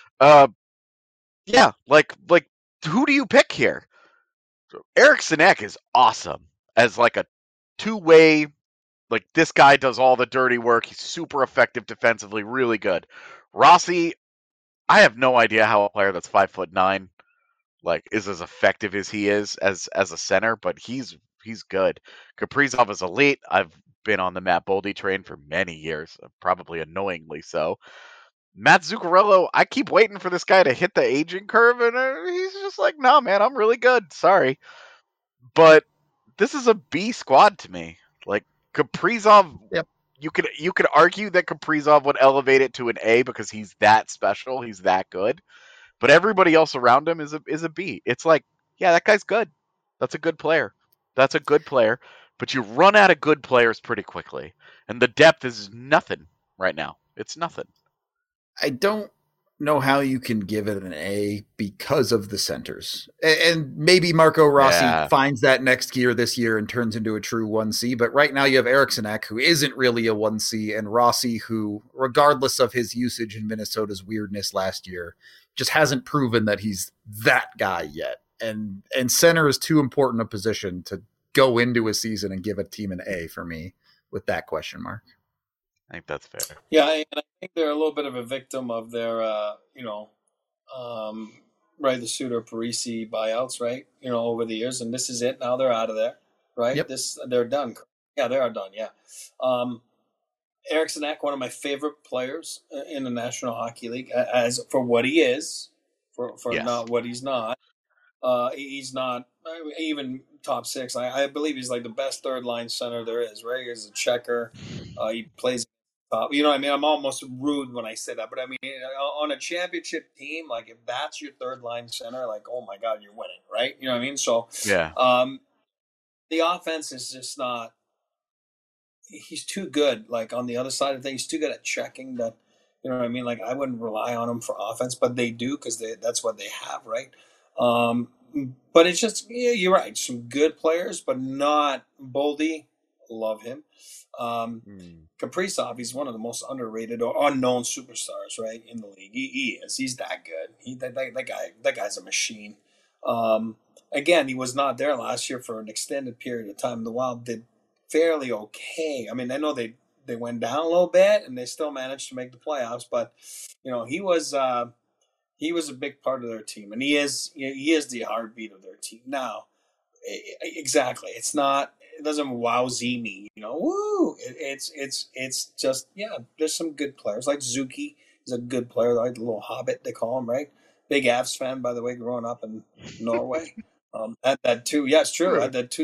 Yeah, like who do you pick here? Eriksson Ek is awesome as like a two-way, like this guy does all the dirty work. He's super effective defensively, really good. Rossi, I have no idea how a player that's 5'9" like is as effective as he is as a center, but he's good. Kaprizov is elite. I've been on the Matt Boldy train for many years, probably annoyingly so. Matt Zuccarello, I keep waiting for this guy to hit the aging curve, and he's just like, no, man, I'm really good. Sorry. But this is a B squad to me. Like, Kaprizov, you could argue that Kaprizov would elevate it to an A because he's that special. He's that good. But everybody else around him is a B. It's like, yeah, that guy's good. That's a good player. That's a good player. But you run out of good players pretty quickly. And the depth is nothing right now. It's nothing. I don't know how you can give it an A because of the centers. And maybe Marco Rossi finds that next year this year and turns into a true 1C. But right now you have Eriksson Ek, who isn't really a 1C, and Rossi, who, regardless of his usage in Minnesota's weirdness last year, just hasn't proven that he's that guy yet. And center is too important a position to go into a season and give a team an A for me. with that question mark. I think that's fair. Yeah, and I think they're a little bit of a victim of their, right, the Suter Parisi buyouts, right? Over the years, and this is it. Now they're out of there, right? Yep. They're done. Yeah, they are done. Yeah. Eriksson Ek, one of my favorite players in the National Hockey League, as for what he is, for Yes. not what he's not. He's not even top six. I believe he's like the best third line center there is, right? He's a checker. He plays top. You know what I mean? I'm almost rude when I say that, but I mean, on a championship team, like if that's your third line center, like, oh my God, you're winning, right? You know what I mean? So, Yeah. The offense is just not. He's too good. Like on the other side of things, he's too good at checking that. You know what I mean? Like I wouldn't rely on him for offense, but they do because that's what they have, right? But it's just, yeah, you're right. Some good players, but not Boldy. Love him. Kaprizov, he's one of the most underrated or unknown superstars, right, in the league. He is. He's that good. That guy's a machine. Again, he was not there last year for an extended period of time. The Wild did fairly okay. I mean, I know they went down a little bit, and they still managed to make the playoffs. But he was a big part of their team, and he is the heartbeat of their team. Now, exactly, it doesn't wowsy me, Woo! It's just, yeah. There's some good players like Zuki is a good player, like the little hobbit they call him, right? Big Avs fan, by the way, growing up in Norway. That too, yeah, it's true. At that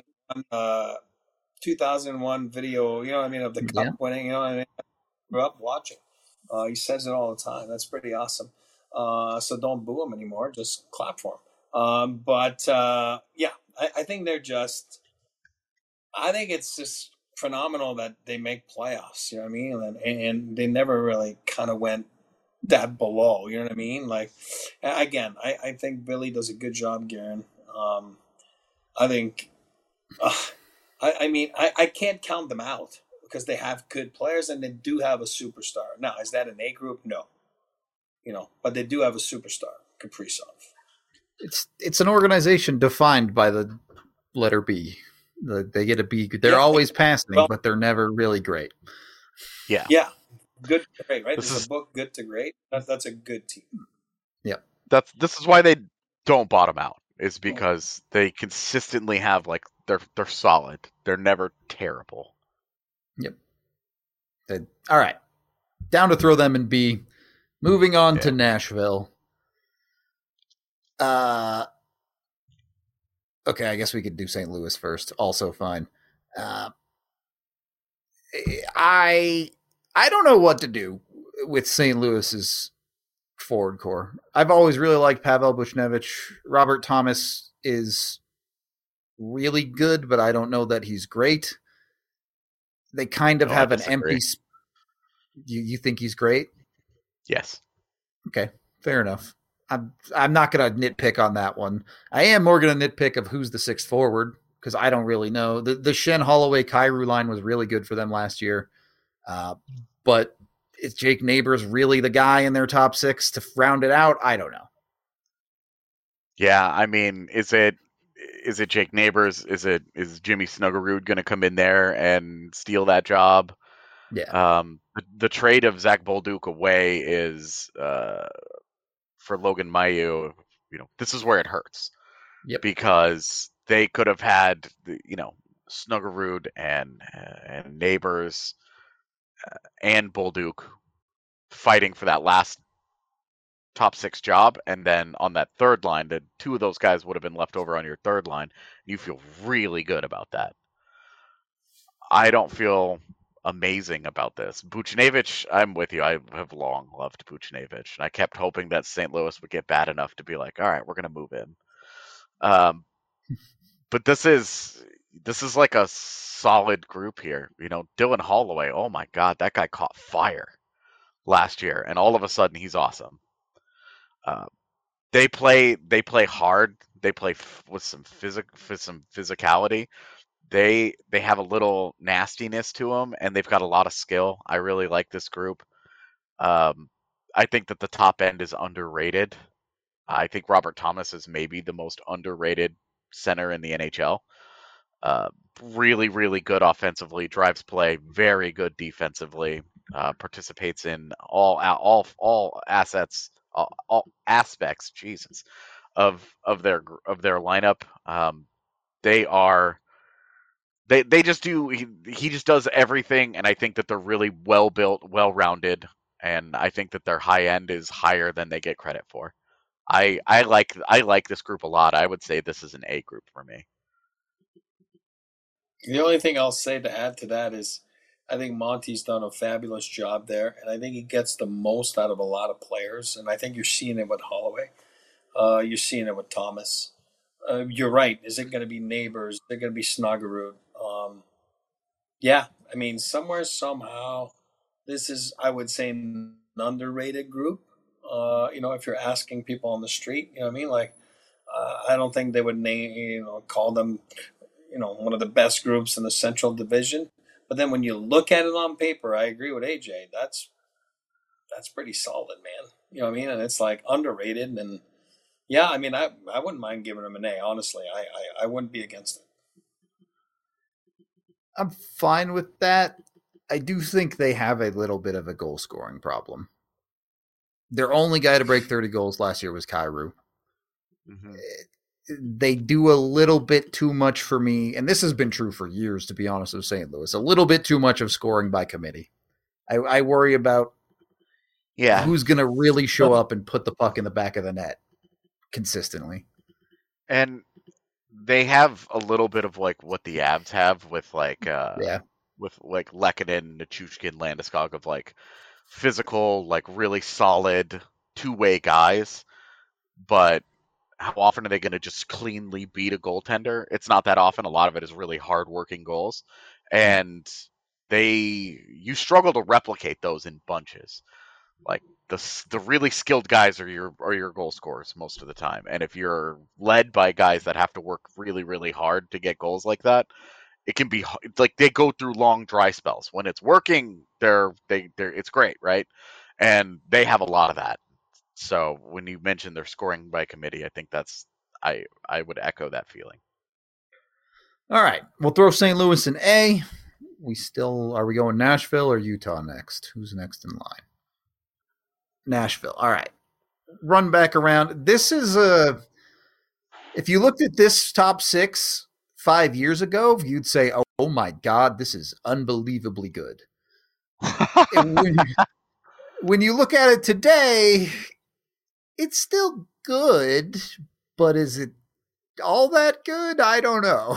2001 video, you know what I mean, of the cup winning, you know what I mean. I grew up watching. He says it all the time. That's pretty awesome. So don't boo him anymore. Just clap for him. Yeah, I think they're just. I think it's just phenomenal that they make playoffs. You know what I mean? And they never really kind of went that below. You know what I mean? Like, again, I think Billy does a good job, Guerin. I think. I mean, I can't count them out because they have good players and they do have a superstar. Now, is that an A group? No. But they do have a superstar, Kaprizov. It's an organization defined by the letter B. They get a B. They're always passing, but they're never really great. Yeah. Yeah. Good to great, right? There's a book, Good to Great. That's a good team. Yeah. This is why they don't bottom out. Is because they consistently have they're solid. They're never terrible. Yep. All right. Down to throw them in B. Moving on to Nashville. Okay, I guess we could do St. Louis first. Also fine. I don't know what to do with St. Louis's forward core. I've always really liked Pavel Buchnevich. Robert Thomas is really good, but I don't know that he's great. They kind of have an empty. You think he's great? Yes. Okay, fair enough. I'm not going to nitpick on that one. I am more going to nitpick of who's the sixth forward because I don't really know. The Schenn, Holloway, Kyrou line was really good for them last year, but is Jake Neighbors really the guy in their top six to round it out? I don't know. Yeah, I mean, is it Jake Neighbors? Is Jimmy Snuggerud going to come in there and steal that job? Yeah. The trade of Zach Bolduc away is for Logan Mailloux. This is where it hurts. Yep. Because they could have had Snuggerud and Neighbors and Bolduc fighting for that last top six job, and then on that third line, the two of those guys would have been left over on your third line. You feel really good about that. I don't feel amazing about this. Buchnevich, I'm with you. I have long loved Buchnevich, and I kept hoping that St. Louis would get bad enough to be like, all right, we're going to move in. But this is like a solid group here. Dylan Holloway, oh my God, that guy caught fire last year, and all of a sudden he's awesome. They play hard. They play with some physicality. They have a little nastiness to them, and they've got a lot of skill. I really like this group. I think that the top end is underrated. I think Robert Thomas is maybe the most underrated center in the NHL. Really, really good offensively, drives play, very good defensively, participates in all assets, all aspects. Jesus, of their lineup. They are they just do. He just does everything, and I think that they're really well built, well rounded, and I think that their high end is higher than they get credit for. I like this group a lot. I would say this is an A group for me. The only thing I'll say to add to that is I think Monty's done a fabulous job there, and I think he gets the most out of a lot of players. And I think you're seeing it with Holloway. You're seeing it with Thomas. You're right. Is it going to be Neighbors? Is it going to be Snuggerud? Yeah, I mean, somewhere, somehow, this is, I would say, an underrated group. If you're asking people on the street, you know what I mean? Like, I don't think they would call them, one of the best groups in the Central Division. But then when you look at it on paper, I agree with AJ. That's pretty solid, man. You know what I mean? And it's like underrated. And yeah, I mean, I wouldn't mind giving them an A. Honestly, I wouldn't be against it. I'm fine with that. I do think they have a little bit of a goal scoring problem. Their only guy to break 30 goals last year was Kyrou. Mm-hmm. They do a little bit too much for me, and this has been true for years, to be honest, with St. Louis. A little bit too much of scoring by committee. I worry about who's going to really show up and put the puck in the back of the net consistently. And they have a little bit of like what the Avs have with with like Lehkonen, Nichushkin, Landeskog, of like physical, like really solid two-way guys, but how often are they going to just cleanly beat a goaltender? It's not that often. A lot of it is really hard-working goals, and you struggle to replicate those in bunches. Like the really skilled guys are your goal scorers most of the time, and if you're led by guys that have to work really, really hard to get goals like that, it can be like they go through long dry spells. When it's working, it's great, right? And they have a lot of that. So when you mentioned they're scoring by committee, I think I would echo that feeling. All right, we'll throw St. Louis in A. Are we going Nashville or Utah next? Who's next in line? Nashville. All right. Run back around. This is if you looked at this top 6 5 years ago, you'd say, oh my God, this is unbelievably good. when you look at it today, it's still good, but is it all that good? I don't know.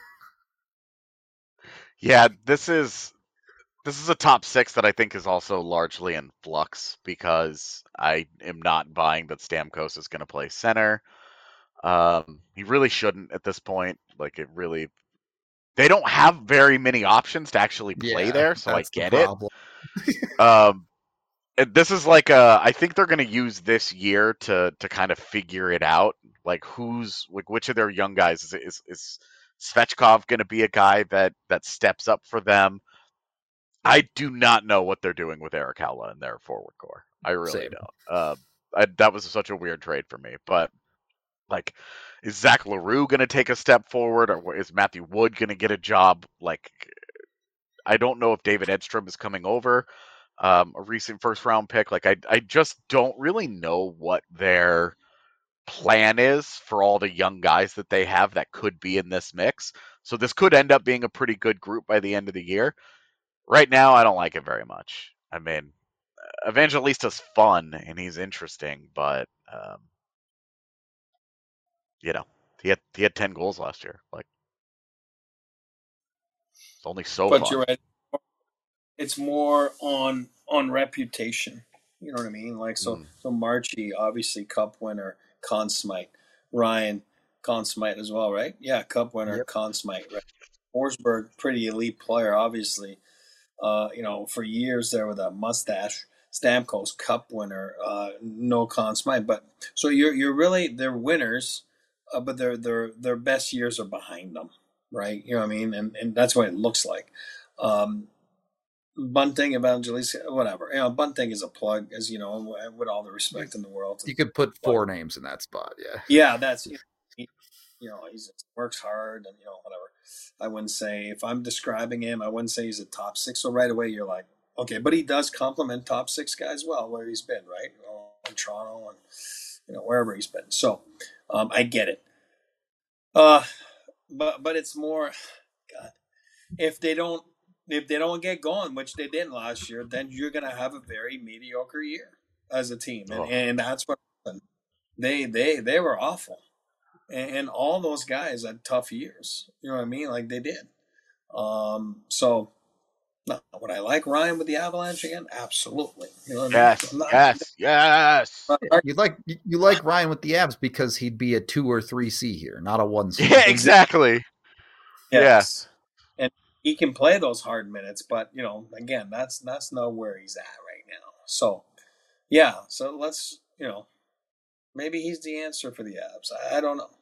Yeah, this is a top 6 that I think is also largely in flux because I am not buying that Stamkos is going to play center. He really shouldn't at this point. Like they don't have very many options to actually play there, so I get it. This is like I think they're going to use this year to kind of figure it out. Like which of their young guys is Svechkov going to be a guy that steps up for them? I do not know what they're doing with Erik Haula in their forward core. I really don't. That was such a weird trade for me. But like, is Zach LaRue going to take a step forward, or is Matthew Wood going to get a job? Like, I don't know if David Edstrom is coming over, a recent first-round pick. Like, I just don't really know what their plan is for all the young guys that they have that could be in this mix. So this could end up being a pretty good group by the end of the year. Right now, I don't like it very much. I mean, Evangelista's fun and he's interesting, but he had 10 goals last year. Like, it's only so fun. But you're right. It's more on reputation. You know what I mean? Like so Marchie, obviously Cup winner, Conn Smythe. Ryan, Conn Smythe as well, right? Yeah, Cup winner, Conn Smythe. Right? Forsberg, pretty elite player, obviously. For years there with a mustache. Stamkos, Cup winner, no Conn Smythe. But so you're really, they're winners, but their best years are behind them, right? You know what I mean? And that's what it looks like. Bunting, Evangelista, whatever. Bunting is a plug, as you know, with all the respect in the world. You could put 4 names in that spot, yeah. Yeah, that's he works hard and whatever. I wouldn't say, if I'm describing him, I wouldn't say he's a top 6. So right away you're like, okay, but he does complement top 6 guys well where he's been, right? In Toronto and wherever he's been. So I get it. But it's more, God, if they don't get going, which they didn't last year, then you're gonna have a very mediocre year as a team, and that's what happened. They were awful, and all those guys had tough years. You know what I mean? Like they did. So, no, would I like Ryan with the Avalanche again? Absolutely. You know what I mean? Yes. You like Ryan with the Avs because he'd be a 2 or 3 C here, not a 1 C. Yeah, exactly. Yes. Yeah. And he can play those hard minutes, but again, that's not where he's at right now. So, yeah. So let's maybe he's the answer for the Avs. I don't know.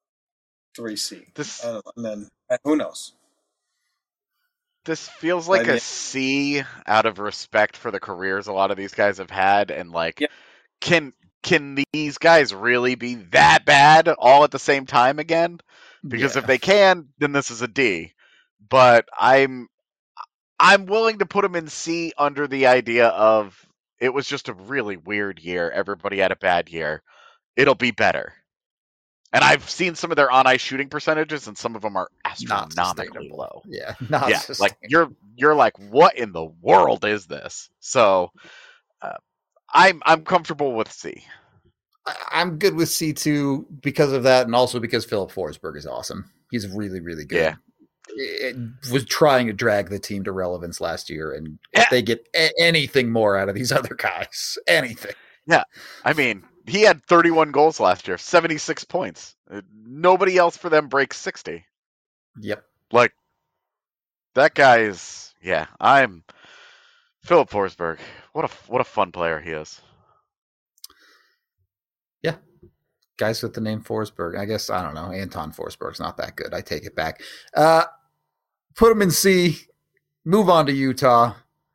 3C. And then who knows? This feels like a C out of respect for the careers a lot of these guys have had, and can these guys really be that bad all at the same time again? Because if they can, then this is a D. But I'm willing to put them in C under the idea of it was just a really weird year. Everybody had a bad year. It'll be better. And I've seen some of their on-ice shooting percentages, and some of them are astronomically low. Yeah, like you're like, what in the world is this? So, I'm comfortable with C. I'm good with C2 because of that, and also because Philip Forsberg is awesome. He's really, really good. Yeah. It was trying to drag the team to relevance last year, and if they get anything more out of these other guys, anything. Yeah, I mean, he had 31 goals last year, 76 points. Nobody else for them breaks 60. Yep. Like, that guy is, I'm Philip Forsberg. What a fun player he is. Yeah. Guys with the name Forsberg. I guess, I don't know, Anton Forsberg's not that good. I take it back. Put him in C. Move on to Utah.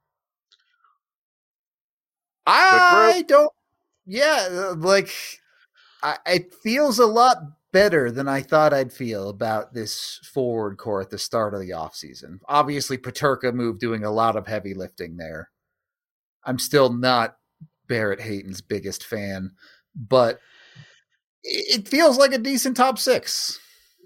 It feels a lot better than I thought I'd feel about this forward core at the start of the offseason. Obviously, Peterka moved doing a lot of heavy lifting there. I'm still not Barrett Hayton's biggest fan, but it feels like a decent top 6.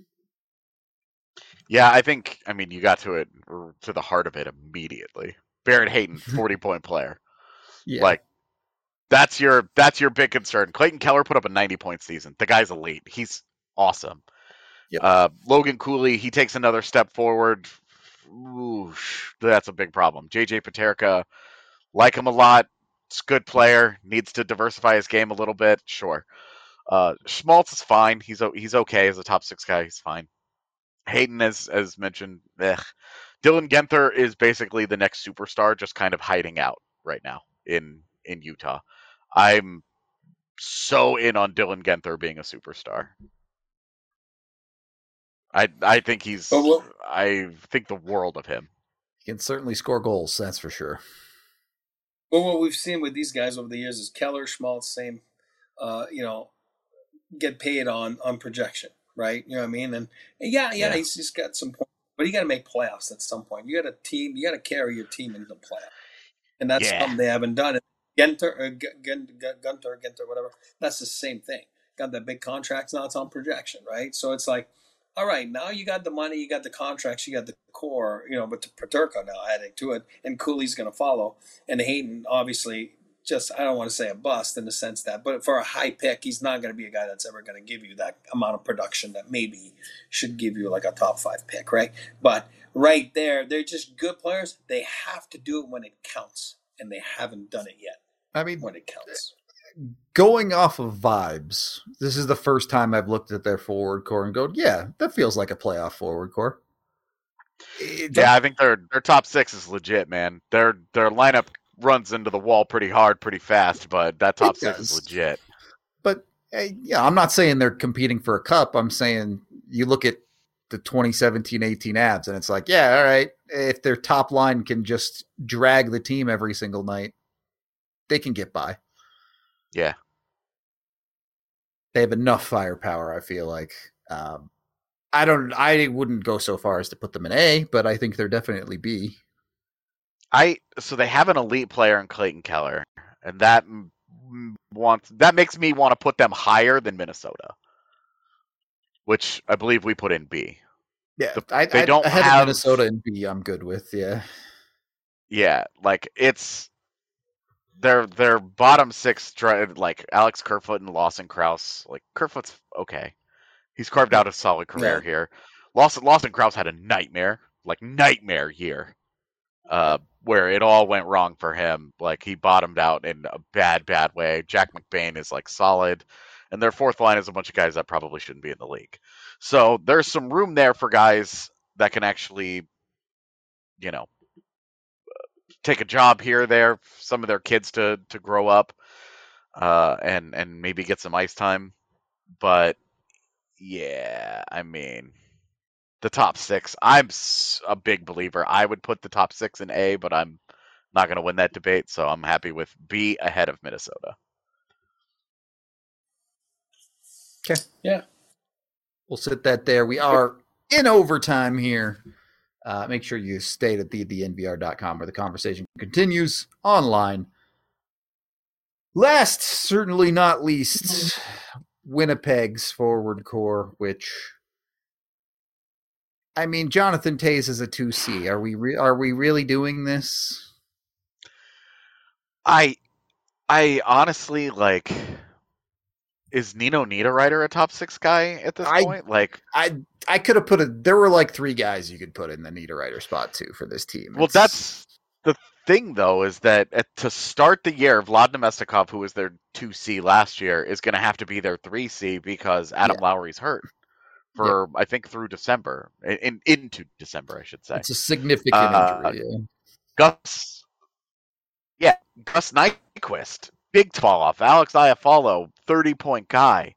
Yeah, I mean, you got to the heart of it immediately. Barrett Hayton, 40-point player. Yeah. Like, that's your big concern. Clayton Keller put up a 90-point season. The guy's elite. He's awesome. Yep. Logan Cooley, he takes another step forward. Ooh, that's a big problem. JJ Peterka, like him a lot. It's a good player. Needs to diversify his game a little bit. Sure. Schmaltz is fine. He's okay as a top 6 guy. He's fine. Hayden, as mentioned, Dylan Genther is basically the next superstar, just kind of hiding out right now in Utah. I'm so in on Dylan Genther being a superstar. I think I think the world of him. He can certainly score goals, that's for sure. Well, what we've seen with these guys over the years is Keller, Schmaltz, same, get paid on projection, right? You know what I mean? And he's got some points, but you got to make playoffs at some point. You got to carry your team into the playoffs, and that's something they haven't done. Gunter, whatever. That's the same thing. Got that big contracts now. It's on projection, right? So it's like, all right, now you got the money, you got the contracts, you got the core, but the Peterka now adding to it, and Cooley's going to follow, and Hayden obviously just, I don't want to say a bust in the sense that, but for a high pick, he's not going to be a guy that's ever going to give you that amount of production that maybe should give you like a top 5 pick, right? But right there, they're just good players. They have to do it when it counts, and they haven't done it yet. I mean, when it counts. Going off of vibes, this is the first time I've looked at their forward core and go, yeah, that feels like a playoff forward core. I think their top 6 is legit, man. Their lineup runs into the wall pretty hard, pretty fast, but that top 6 is legit. But I'm not saying they're competing for a cup. I'm saying you look at the 2017-18 Avs, and it's like, all right, if their top line can just drag the team every single night, they can get by. Yeah. They have enough firepower, I feel like. I wouldn't go so far as to put them in A, but I think they're definitely B. So they have an elite player in Clayton Keller, and that makes me want to put them higher than Minnesota, which I believe we put in B. Yeah, They don't ahead have of Minnesota in B. I'm good with. Yeah, yeah, like it's their bottom six, like Alex Kerfoot and Lawson Krause. Like Kerfoot's okay. He's carved out a solid career here. Lawson Krause had a nightmare year, where it all went wrong for him. Like he bottomed out in a bad way. Jack McBain is like solid, and their fourth line is a bunch of guys that probably shouldn't be in the league. So there's some room there for guys that can actually, take a job here or there, some of their kids to grow up, and maybe get some ice time. But yeah, I mean, the top six, I'm a big believer. I would put the top six in A, but I'm not going to win that debate, so I'm happy with B ahead of Minnesota. Okay. Yeah. We'll sit that there. We are in overtime here. Make sure you stay at thednvr.com where the conversation continues online. Last, certainly not least, Winnipeg's forward core, which, I mean, Jonathan Toews is a 2C. Are we really doing this? I honestly, like, is Nino Niederreiter a top six guy at this point? Like, I could have there were like three guys you could put in the Niederreiter spot too for this team. Well, that's the thing, though, is that to start the year, Vlad Nemestikov, who was their 2C last year, is going to have to be their 3C because Adam Lowry's hurt for, I think, through December. Into December, I should say. It's a significant injury. Gus Nyquist, big fall off. Alex Iafallo, 30-point guy.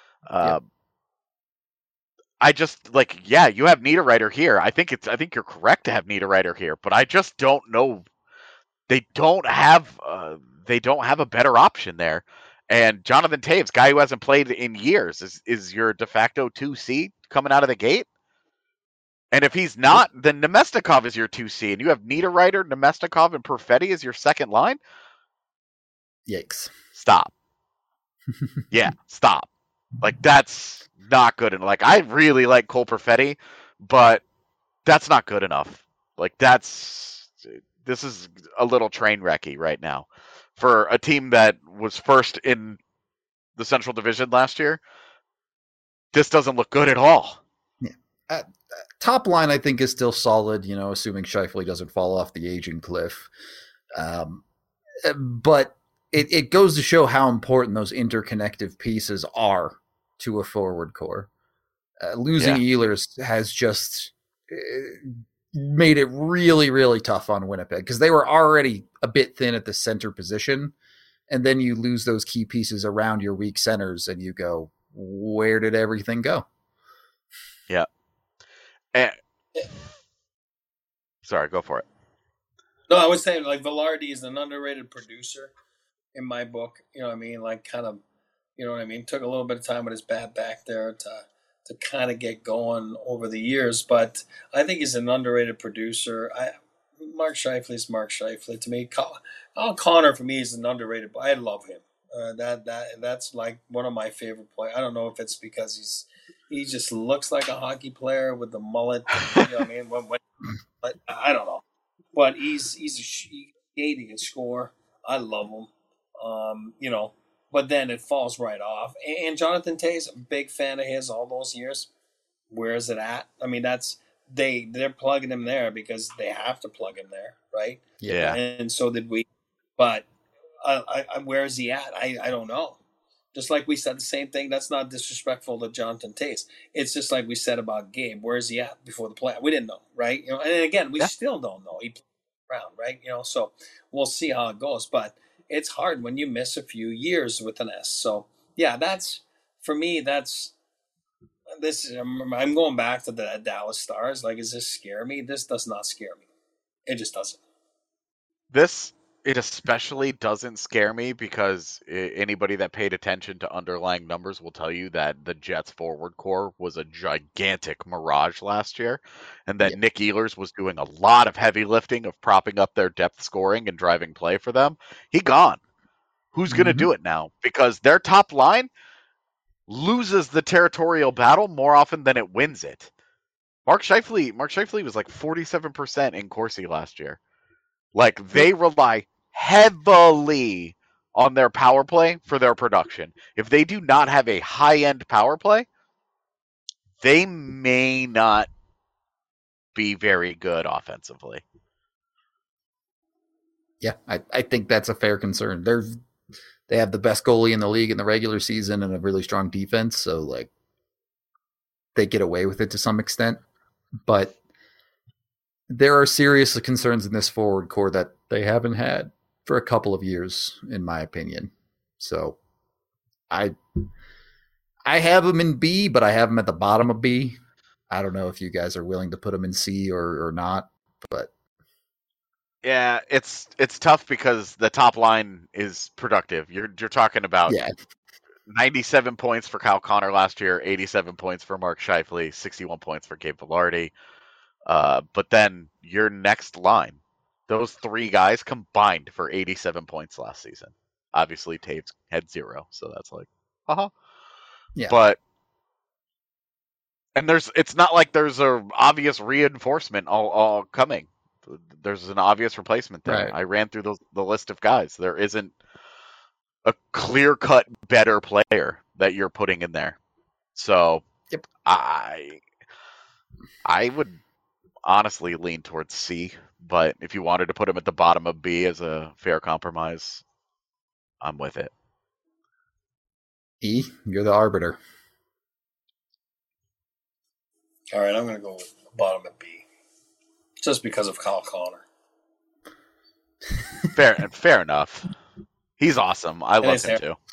I just you have Niederreiter here. I think you're correct to have Niederreiter here, but I just don't know. They don't have a better option there. And Jonathan Toews, guy who hasn't played in years, is your de facto 2C coming out of the gate. And if he's not, then Nemestikov is your 2C, and you have Niederreiter, Nemestikov, and Perfetti as your second line. Yikes! Stop. Stop. Like, that's not good enough. Like, I really like Cole Perfetti, but that's not good enough. Like, this is a little train wrecky right now for a team that was first in the Central Division last year. This doesn't look good at all. Yeah. Top line, I think, is still solid, assuming Scheifele doesn't fall off the aging cliff. But it goes to show how important those interconnective pieces are to a forward core. Losing Ehlers has just made it really, really tough on Winnipeg because they were already a bit thin at the center position. And then you lose those key pieces around your weak centers and you go, where did everything go? Yeah. Sorry, go for it. No, I was saying, like, Velarde is an underrated producer in my book. You know what I mean? Like, kind of, you know what I mean? Took a little bit of time with his bad back there to kind of get going over the years. But I think he's an underrated producer. Mark Scheifele is Mark Scheifele to me. Kyle Connor, for me, is an underrated. I love him. That's like one of my favorite players. I don't know if it's because he just looks like a hockey player with the mullet. You know what I mean? But I don't know. But he's a skate. He can score. I love him. But then it falls right off. And Jonathan Toews, a big fan of his all those years. Where is it at? I mean, they're plugging him there because they have to plug him there, right? Yeah. And so did we. But where is he at? I don't know. Just like we said the same thing. That's not disrespectful to Jonathan Toews. It's just like we said about Gabe. Where is he at before the play? We didn't know, right? And again, we still don't know. He played around, right? So we'll see how it goes. But it's hard when you miss a few years with an S. So yeah, that's for me. That's this. I'm going back to the Dallas Stars. Like, does this scare me? This does not scare me. It just doesn't. This It especially doesn't scare me because anybody that paid attention to underlying numbers will tell you that the Jets forward core was a gigantic mirage last year, and that Nick Ehlers was doing a lot of heavy lifting of propping up their depth scoring and driving play for them. He gone. Who's going to do it now? Because their top line loses the territorial battle more often than it wins it. Mark Scheifele was like 47% in Corsi last year. Like, they rely heavily on their power play for their production. If they do not have a high-end power play, they may not be very good offensively. Yeah, I think that's a fair concern. They have the best goalie in the league in the regular season and a really strong defense, so like they get away with it to some extent. But there are serious concerns in this forward core that they haven't had for a couple of years, in my opinion. So I have them in B, but I have them at the bottom of B. I don't know if you guys are willing to put them in C or not, but yeah, it's tough because the top line is productive. You're talking about 97 points for Kyle Connor last year, 87 points for Mark Scheifele, 61 points for Gabe Vilardi. But then your next line, those three guys combined for 87 points last season. Obviously, Taves had 0, so that's like, yeah. But and it's not like there's a obvious reinforcement all coming. There's an obvious replacement there. Right. I ran through the list of guys. There isn't a clear-cut better player that you're putting in there. So I would honestly lean towards C, but if you wanted to put him at the bottom of B as a fair compromise, I'm with it. E, you're the arbiter. All right, I'm going to go with the bottom of B, just because of Kyle Connor. Fair enough. He's awesome. I love him too.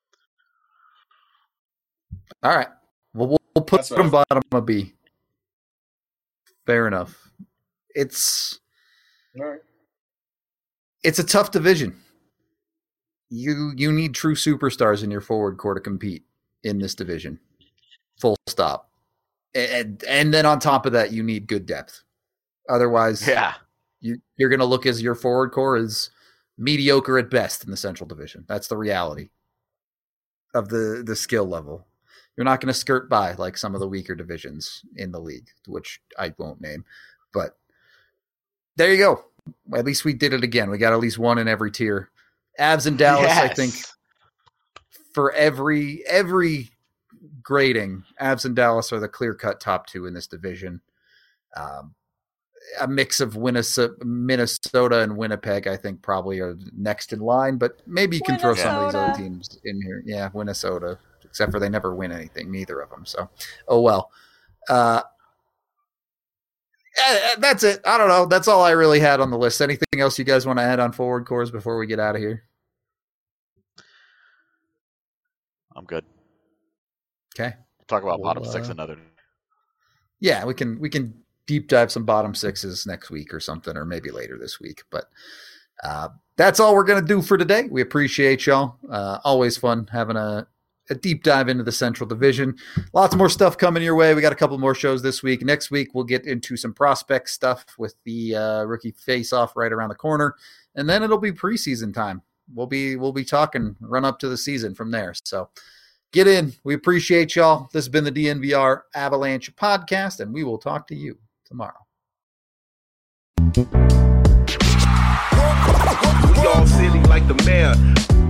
All right, well, we'll put him bottom of B. Fair enough. It's a tough division. You need true superstars in your forward core to compete in this division. Full stop. And then on top of that, you need good depth. Otherwise, you're going to look as your forward core is mediocre at best in the Central Division. That's the reality of the skill level. You're not going to skirt by like some of the weaker divisions in the league, which I won't name. But there you go. At least we did it again. We got at least one in every tier. Avs and Dallas, I think, for every grading, Avs and Dallas are the clear-cut top two in this division. A mix of Minnesota and Winnipeg, I think, probably are next in line, but maybe you can throw some of these other teams in here. Yeah, Minnesota, except for they never win anything, neither of them. So, oh well. That's it. I don't know. That's all I really had on the list. Anything else you guys want to add on forward cores before we get out of here? I'm good. Okay. Talk about bottom six another day. Yeah, we can deep dive some bottom sixes next week or something, or maybe later this week. But that's all we're going to do for today. We appreciate y'all. Always fun having a deep dive into the Central Division. Lots more stuff coming your way. We got a couple more shows this week. Next week, we'll get into some prospect stuff with the rookie face-off right around the corner. And then it'll be preseason time. We'll be talking run up to the season from there. So get in. We appreciate y'all. This has been the DNVR Avalanche podcast, and we will talk to you tomorrow. We all silly like the mayor.